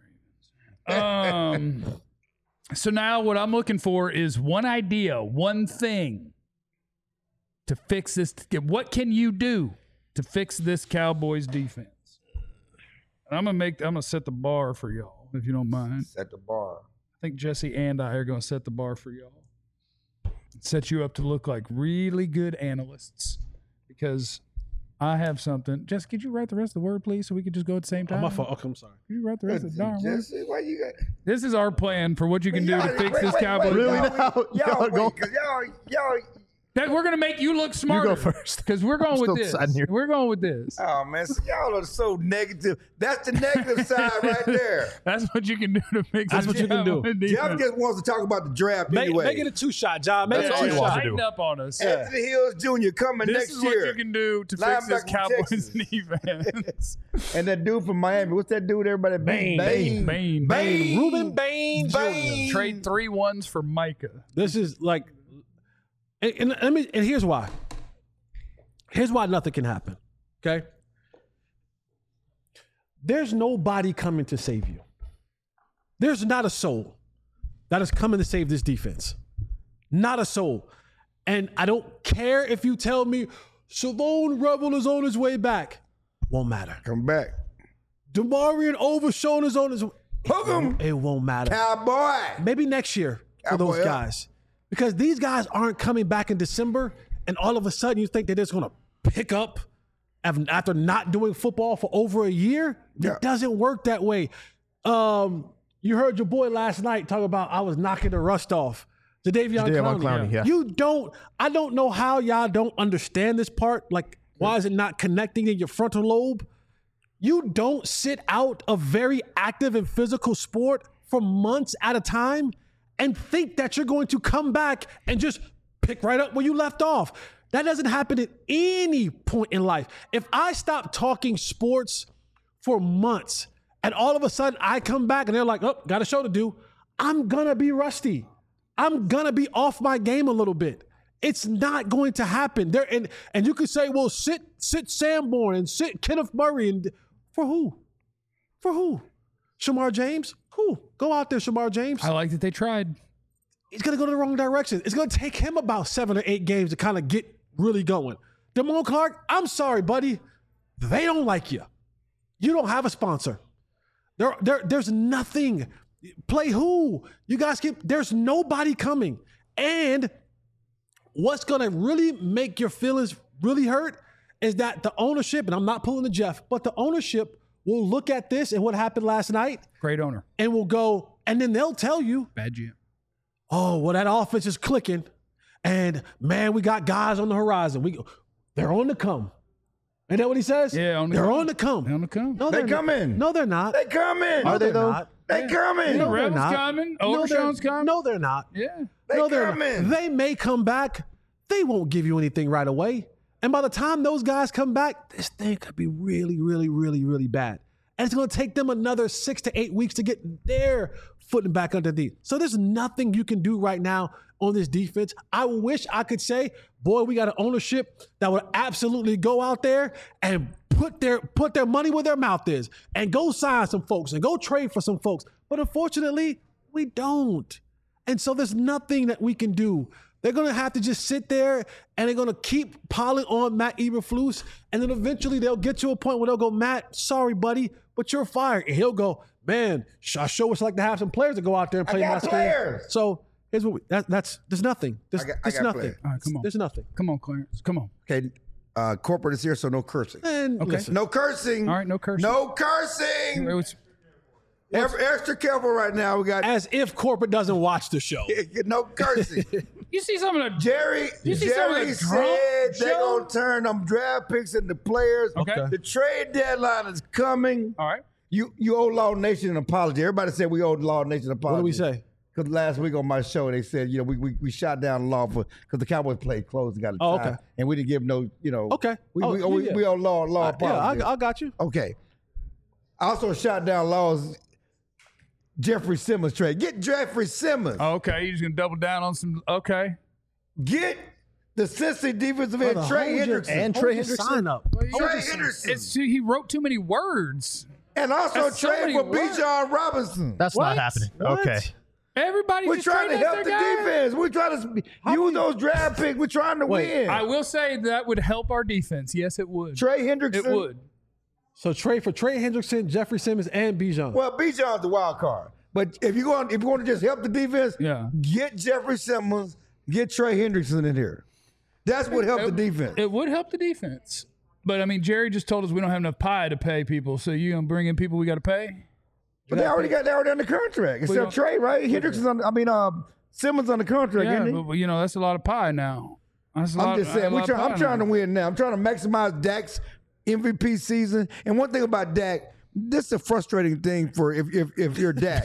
Um, so now what I'm looking for is one idea, one thing to fix this. What can you do to fix this Cowboys defense? And I'm gonna make. I'm gonna set the bar for y'all, if you don't mind. Set the bar. I think Jesse and I are gonna set the bar for y'all. Set you up to look like really good analysts, because I have something. Jess, could you write the rest of the word, please, so we could just go at the same Oh, time? my fault. Okay, I'm sorry. Could you write the rest of the darn word? Jesse, why you got? This is our plan for what you can do to Y'all- fix wait, this wait, Cowboys. wait, Really Y'all, now? y'all, Y'all wait, go- 'cause y'all, y'all. That we're gonna make you look smarter. go first. because we're going I'm with still this. deciding here. We're going with this. Oh man, so y'all are so negative. That's the negative side right there. That's what you can do to fix. That's this what you can do. Cowboys Jeff defense. just wants to talk about the draft Make, anyway. make it a two-shot, John. Make That's it all a he Yeah, wants to two-shot. do. tighten up on us. Anthony Hills Junior coming This next is year. what you can do to fix this Linebacker from Cowboys Texas. defense. And that dude from Miami, what's that dude everybody? Bain. Bain. Bain. Bain. Ruben Bain Bain. Junior Trade three ones for Micah. This is like, and, and, let me, and here's why. Here's why nothing can happen. Okay. there's nobody coming to save you. There's not a soul that is coming to save this defense. Not a soul. And I don't care if you tell me Shalon Rebel is on his way back. Won't matter. Come back. DeMarion Overshown is on his way. Hook 'em. It won't matter. Cowboy. Maybe next year for Cowboy those up. guys. Because these guys aren't coming back in December, and all of a sudden you think they're just going to pick up after not doing football for over a year. Yeah. It doesn't work that way. Um, you heard your boy last night talk about I was knocking the rust off. Jadeveon Jadeveon Clowney. Clowney, yeah. You don't, I don't know how y'all don't understand this part. Like, why is it not connecting in your frontal lobe? You don't sit out a very active and physical sport for months at a time and think that you're going to come back and just pick right up where you left off. That doesn't happen at any point in life. If I stop talking sports for months and all of a sudden I come back and they're like, oh, got a show to do, I'm going to be rusty. I'm going to be off my game a little bit. It's not going to happen. There and and you could say, well, sit sit Sanborn and sit Kenneth Murray and for who? For who? Shamar James? Who? Go out there, Shamar James. I like that they tried. He's going to go to the wrong direction. It's going to take him about seven or eight games to kind of get really going. Damone Clark, I'm sorry, buddy. They don't like you. You don't have a sponsor. There, there, there's nothing. Play who? You guys keep, there's nobody coming. And what's going to really make your feelings really hurt is that the ownership, and I'm not pulling the Jeff, but the ownership will look at this and what happened last night Great owner. and will go, and then they'll tell you, Bad G M. oh, well, that offense is clicking. And man, we got guys on the horizon. We they're on the come. Ain't that what he says? Yeah, on the they're come. on the come. They're on the come. No, They they're not. coming. No, they're not. They coming. No, Are they, they're though? not. They coming. No, they're Rebels not. coming. No, they're- Overshown's coming. No, they're not. Yeah. They no, they're coming. not. They may come back. They won't give you anything right away. And by the time those guys come back, this thing could be really, really, really, really bad. And it's going to take them another six to eight weeks to get their footing back underneath. So there's nothing you can do right now on this defense. I wish I could say, boy, we got an ownership that would absolutely go out there and put their put their money where their mouth is and go sign some folks and go trade for some folks. But unfortunately, we don't. And so there's nothing that we can do. They're going to have to just sit there and they're going to keep piling on Matt Eberflus. And then eventually they'll get to a point where they'll go, Matt, sorry, buddy, but you're fired. And he'll go, man, I sure would like to have some players to go out there and I play got my game. players. So here's what we, that, that's, there's nothing. There's, I got- I there's got nothing. players. All right, come on. There's nothing. Come on, Clarence. Come on. Okay, uh, corporate is here, so no cursing. And Okay. listen, No cursing. All right, no cursing. No cursing. It was- Every, extra careful right now. We got as if corporate doesn't watch the show. no cursing. you see some of the Jerry, You see some of Jerry the drunk said they're show? gonna turn them draft picks into players. Okay. The trade deadline is coming. All right. You you owe Law Nation an apology. Everybody said we owe Law Nation an apology. What do we say? Because last week on my show they said you know we we, we shot down Law for because the Cowboys played close and got a Oh, tie, okay. and we didn't give no you know Okay. we Oh, we, yeah, we, yeah. we owe Law Law Uh, yeah, apology. I, I got you. Okay. I also shot down Law's Jeffrey Simmons trade. Get Jeffrey Simmons. Oh, okay. You're just going to double down on some. Okay. Get the Cincy defensive end Brother, Trey hold your- Hendrickson. And hold Trey your Hendrickson. Sign up. Trey Henderson. It's, he wrote too many words. And also That's so trade many for words. Bijan Robinson. That's What? not happening. What? Okay. Everybody We're just trying to treat us help the their guy. defense. We're trying to use those draft picks. We're trying to Wait, win. I will say that would help our defense. Yes, it would. Trey Hendrickson. It would. So trade for Trey Hendrickson, Jeffrey Simmons, and Bijan. Well, Bijan's the wild card. But if you want, if you want to just help the defense, Yeah. get Jeffrey Simmons, get Trey Hendrickson in here. That's what helped the defense. It would help the defense. But I mean, Jerry just told us we don't have enough pie to pay people. So you gonna bring in people we got to pay? But they already got they already under contract. don't- Except Trey, right? Hendrickson's on. I mean, uh, Simmons on the contract, Yeah, isn't he? but you know that's a lot of pie now. That's a I'm lot, just a saying. We lot try, of I'm pie trying now. to win now. I'm trying to maximize Dak's M V P season. And one thing about Dak, this is a frustrating thing for if if, if you're Dak.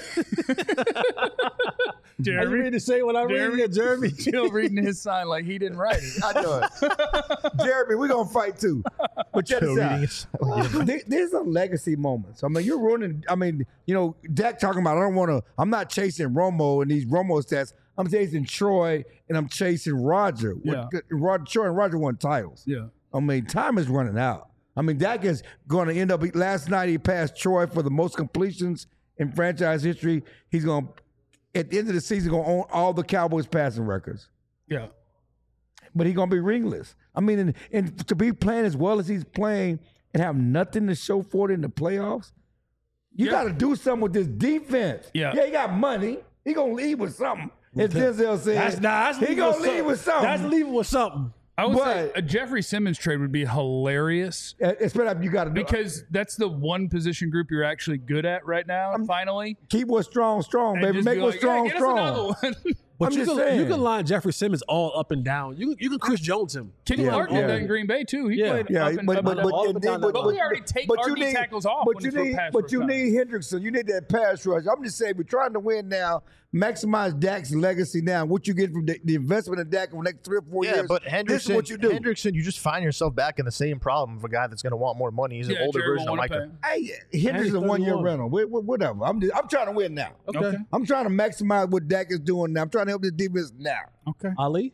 Are you ready to say what I read? Jeremy, Yeah, Jeremy. still reading his sign like he didn't write it. I know it. Jeremy, we're gonna fight too. But check Still this reading out. his- There- There's a legacy moments. I mean, you're ruining. I mean, you know, Dak talking about. I don't want to. I'm not chasing Romo and these Romo stats. I'm chasing Troy and I'm chasing Roger. Yeah. What- Roger, Troy and Roger won titles. Yeah. I mean, time is running out. I mean, Dak is going to end up. Last night he passed Troy for the most completions in franchise history. He's going to, at the end of the season, going to own all the Cowboys passing records. Yeah. But he's going to be ringless. I mean, and, and to be playing as well as he's playing and have nothing to show for it in the playoffs, you Yeah. got to do something with this defense. Yeah. Yeah, he got money. He going to leave with something. As Denzel said, That's, nah, that's he leaving going to with leave with something. That's leaving with something. I would say But- a Jeffrey Simmons trade would be hilarious Especially if you got to do because that's the one position group you're actually good at right now. finally, keep what's strong, strong, And baby. just Make be what's like, strong, yeah, get us strong. another one. But I'm you just can, saying. you can line Jeffrey Simmons all up and down. You you can Chris Jones him. Kenny Yeah, Clark yeah. did that in Green Bay too. He Yeah. played Yeah, up and, but up but and but, down. all and up and then- down but, that But we already take but our you D need- tackles off But when you it's for need pass but you rush. need Hendrickson. You need that pass rush. I'm just saying we're trying to win now. Maximize Dak's legacy now. What you get from the, the investment in Dak over the next three or four Yeah, years. but this Hendrickson, is what you do. Hendrickson, you just find yourself back in the same problem of a guy that's going to want more money. He's Yeah, an older Jerry version won't of wanna Micah. pay. Hey, Hendrickson's a one year thirty-one. rental. Wh- wh- Whatever. I'm just, I'm trying to win now. Okay. Okay. I'm trying to maximize what Dak is doing now. I'm trying to help the defense now. Okay. Ali?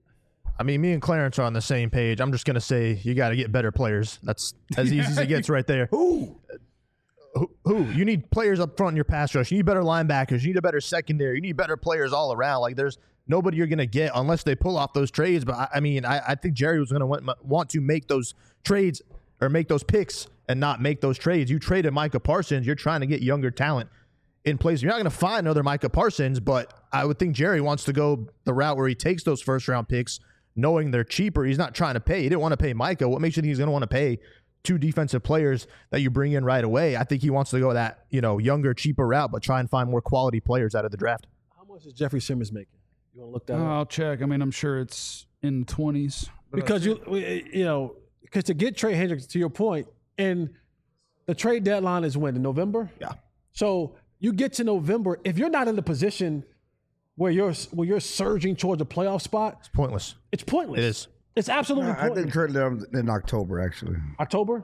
I mean, me and Clarence are on the same page. I'm just going to say you got to get better players. That's as easy as it gets right there. Who? Who, who? You need players up front in your pass rush. You need better linebackers. You need a better secondary. You need better players all around. Like there's nobody you're going to get unless they pull off those trades. But I, I mean, I, I think Jerry was going to want, want to make those trades or make those picks and not make those trades. You traded Micah Parsons. You're trying to get younger talent in place. You're not going to find another Micah Parsons, but I would think Jerry wants to go the route where he takes those first round picks, knowing they're cheaper. He's not trying to pay. He didn't want to pay Micah. What makes you think he's going to want to pay two defensive players that you bring in right away? I think he wants to go that, you know, younger, cheaper route, but try and find more quality players out of the draft. How much is Jeffrey Simmons making? You want to look that Uh, up? I'll check. I mean, I'm sure it's in the twenties. Because you you know, because to get Trey Hendricks, to your point, and the trade deadline is when? In November? Yeah. So you get to November, if you're not in the position where you're where you're surging towards a playoff spot, It's pointless. it's pointless. It is. It's absolutely I pointless. think currently in October, actually. October?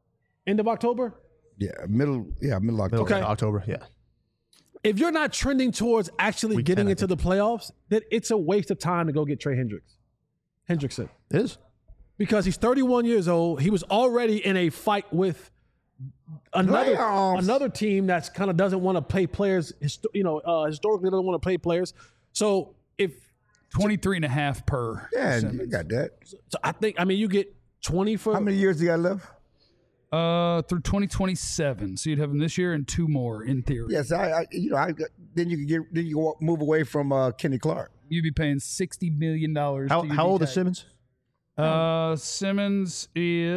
End of October? Yeah, middle. Yeah, middle October. Middle Okay. of October, yeah. If you're not trending towards actually Week getting ten, I into the playoffs, then it's a waste of time to go get Trey Hendricks. Hendrickson. It is. Because he's thirty-one years old. He was already in a fight with another Playoffs. another team that's kind of doesn't want to pay players, histo- you know, uh, historically doesn't want to pay players. So if twenty-three and a half per. Yeah, you Simmons. got that. so I think I mean you get twenty for How many years he got left? Uh, through twenty twenty-seven. So you'd have him this year and two more in theory. Yes, I, I you know, I then you can get then you can walk, move away from uh, Kenny Clark. You'd be paying sixty million dollars. How, how old is Simmons? Uh, Simmons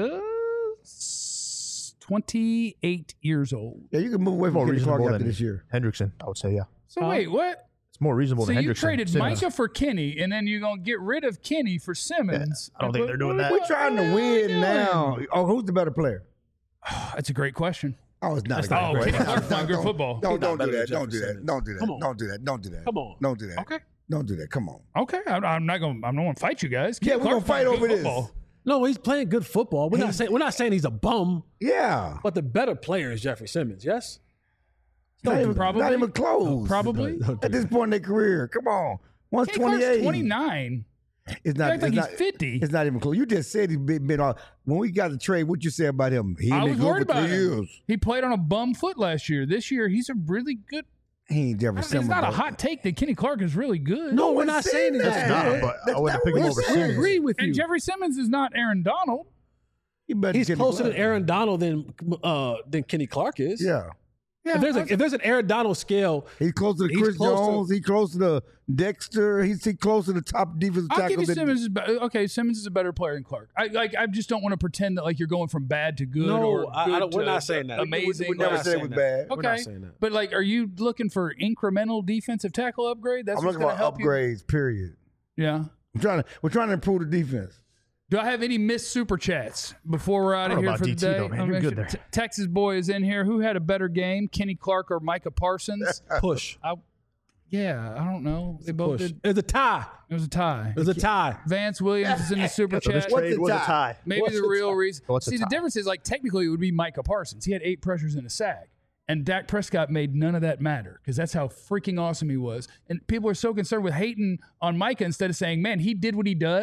is twenty-eight years old. Yeah, you can move away More from Kenny Clark reasonable after than this year. Hendrickson, I would say, yeah. So wait, what? It's more reasonable So than you Hendrickson. traded Simmons. Micah for Kenny, and then you're gonna get rid of Kenny for Simmons. I don't think they're doing that. We're trying to win now. Oh, who's the better player? That's a great question. Oh, it's not. a not great a great player. question. Playing good football. Don't, He's not don't do better that. than Don't do Jeffrey that. Don't do that. Come on. Don't do that. Don't do that. Come on. Don't do that. Okay. Don't do that. Come on. Okay, I, I'm not gonna. I'm not gonna fight you guys. Yeah, Kenny we're gonna Clark's fight playing over good this. football. no, he's playing good football. We're not saying we're not saying he's a bum, Yeah. but the better player is Jeffrey Simmons. Yes. Not even, probably. not even close. Probably. At this point in their career. Come on. One's Kenny Clark's twenty-eight. twenty-nine. It's not. You act like it's he's not, fifty. It's not even close. You just said he's been, been on. When we got the trade, what you say about him? He I ain't was been worried good for about three him. years. He played on a bum foot last year. This year, he's a really good. He ain't Jeffrey It's Simmons. not a though. hot take that Kenny Clark is really good. No, we're one's not saying saying he's that. Nah, good. but That's I wouldn't not pick what him we're over saying. We Simmons. agree with you. And Jeffrey Simmons is not Aaron Donald. He better He's than Kenny closer Clark. than Aaron Donald than uh, than Kenny Clark is. Yeah. Yeah, If there's a, if there's an Aaron Donald scale, He's closer to He's Chris close to- Jones. He's closer to Dexter. He's he closer to top defensive I'll give tackles. you than- Simmons. Is be- okay, Simmons is a better player than Clark. I like. I just don't want to pretend that like you're going from bad to good. No, or I- I good don't- we're to not saying that. Amazing. We never not said it saying was that. bad. We're not Okay, saying that. but like, are you looking for incremental defensive tackle upgrade? That's I'm what's looking going for to help upgrades. Period. you. Yeah. I'm trying to. We're trying to improve the defense. Do I have any missed super chats before we're out I of don't know here about for the D T day? though, man. Let me You're make good sure- there. T- Texas boy is in here. Who had a better game, Kenny Clark or Micah Parsons? push. I, yeah, I don't know. They both Push. did. It was a tie. It was a tie. It was a tie. Vance Williams is in the super So this chat. What's trade the was a tie? tie. Maybe What's the the real tie? reason. What's the See, the tie? difference is like technically it would be Micah Parsons. He had eight pressures and a sack. And Dak Prescott made none of that matter because that's how freaking awesome he was. And people are so concerned with hating on Micah instead of saying, man, he did what he does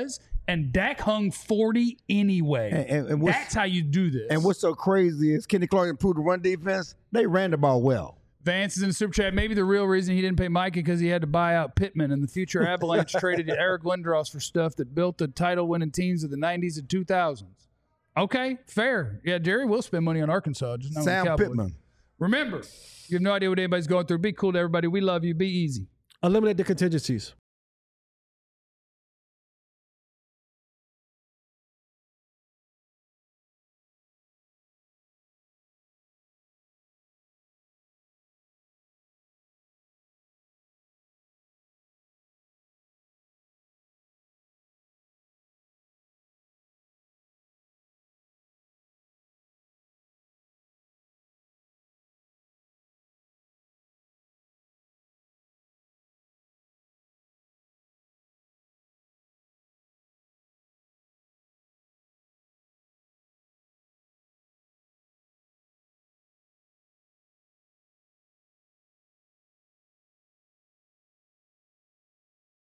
and Dak hung forty anyway. And, and, and what's, That's how you do this. and what's so crazy is Kenny Clark improved the run defense. They ran the ball well. Vance is in the super chat. Maybe the real reason he didn't pay Micah because he had to buy out Pittman, and the future Avalanche traded Eric Lindros for stuff that built the title-winning teams of the nineties and two thousands. Okay, fair. Yeah, Jerry will spend money on Arkansas. Just not on the Sam Cowboys. Pittman. Remember, you have no idea what anybody's going through. Be cool to everybody. We love you. Be easy. Eliminate the contingencies.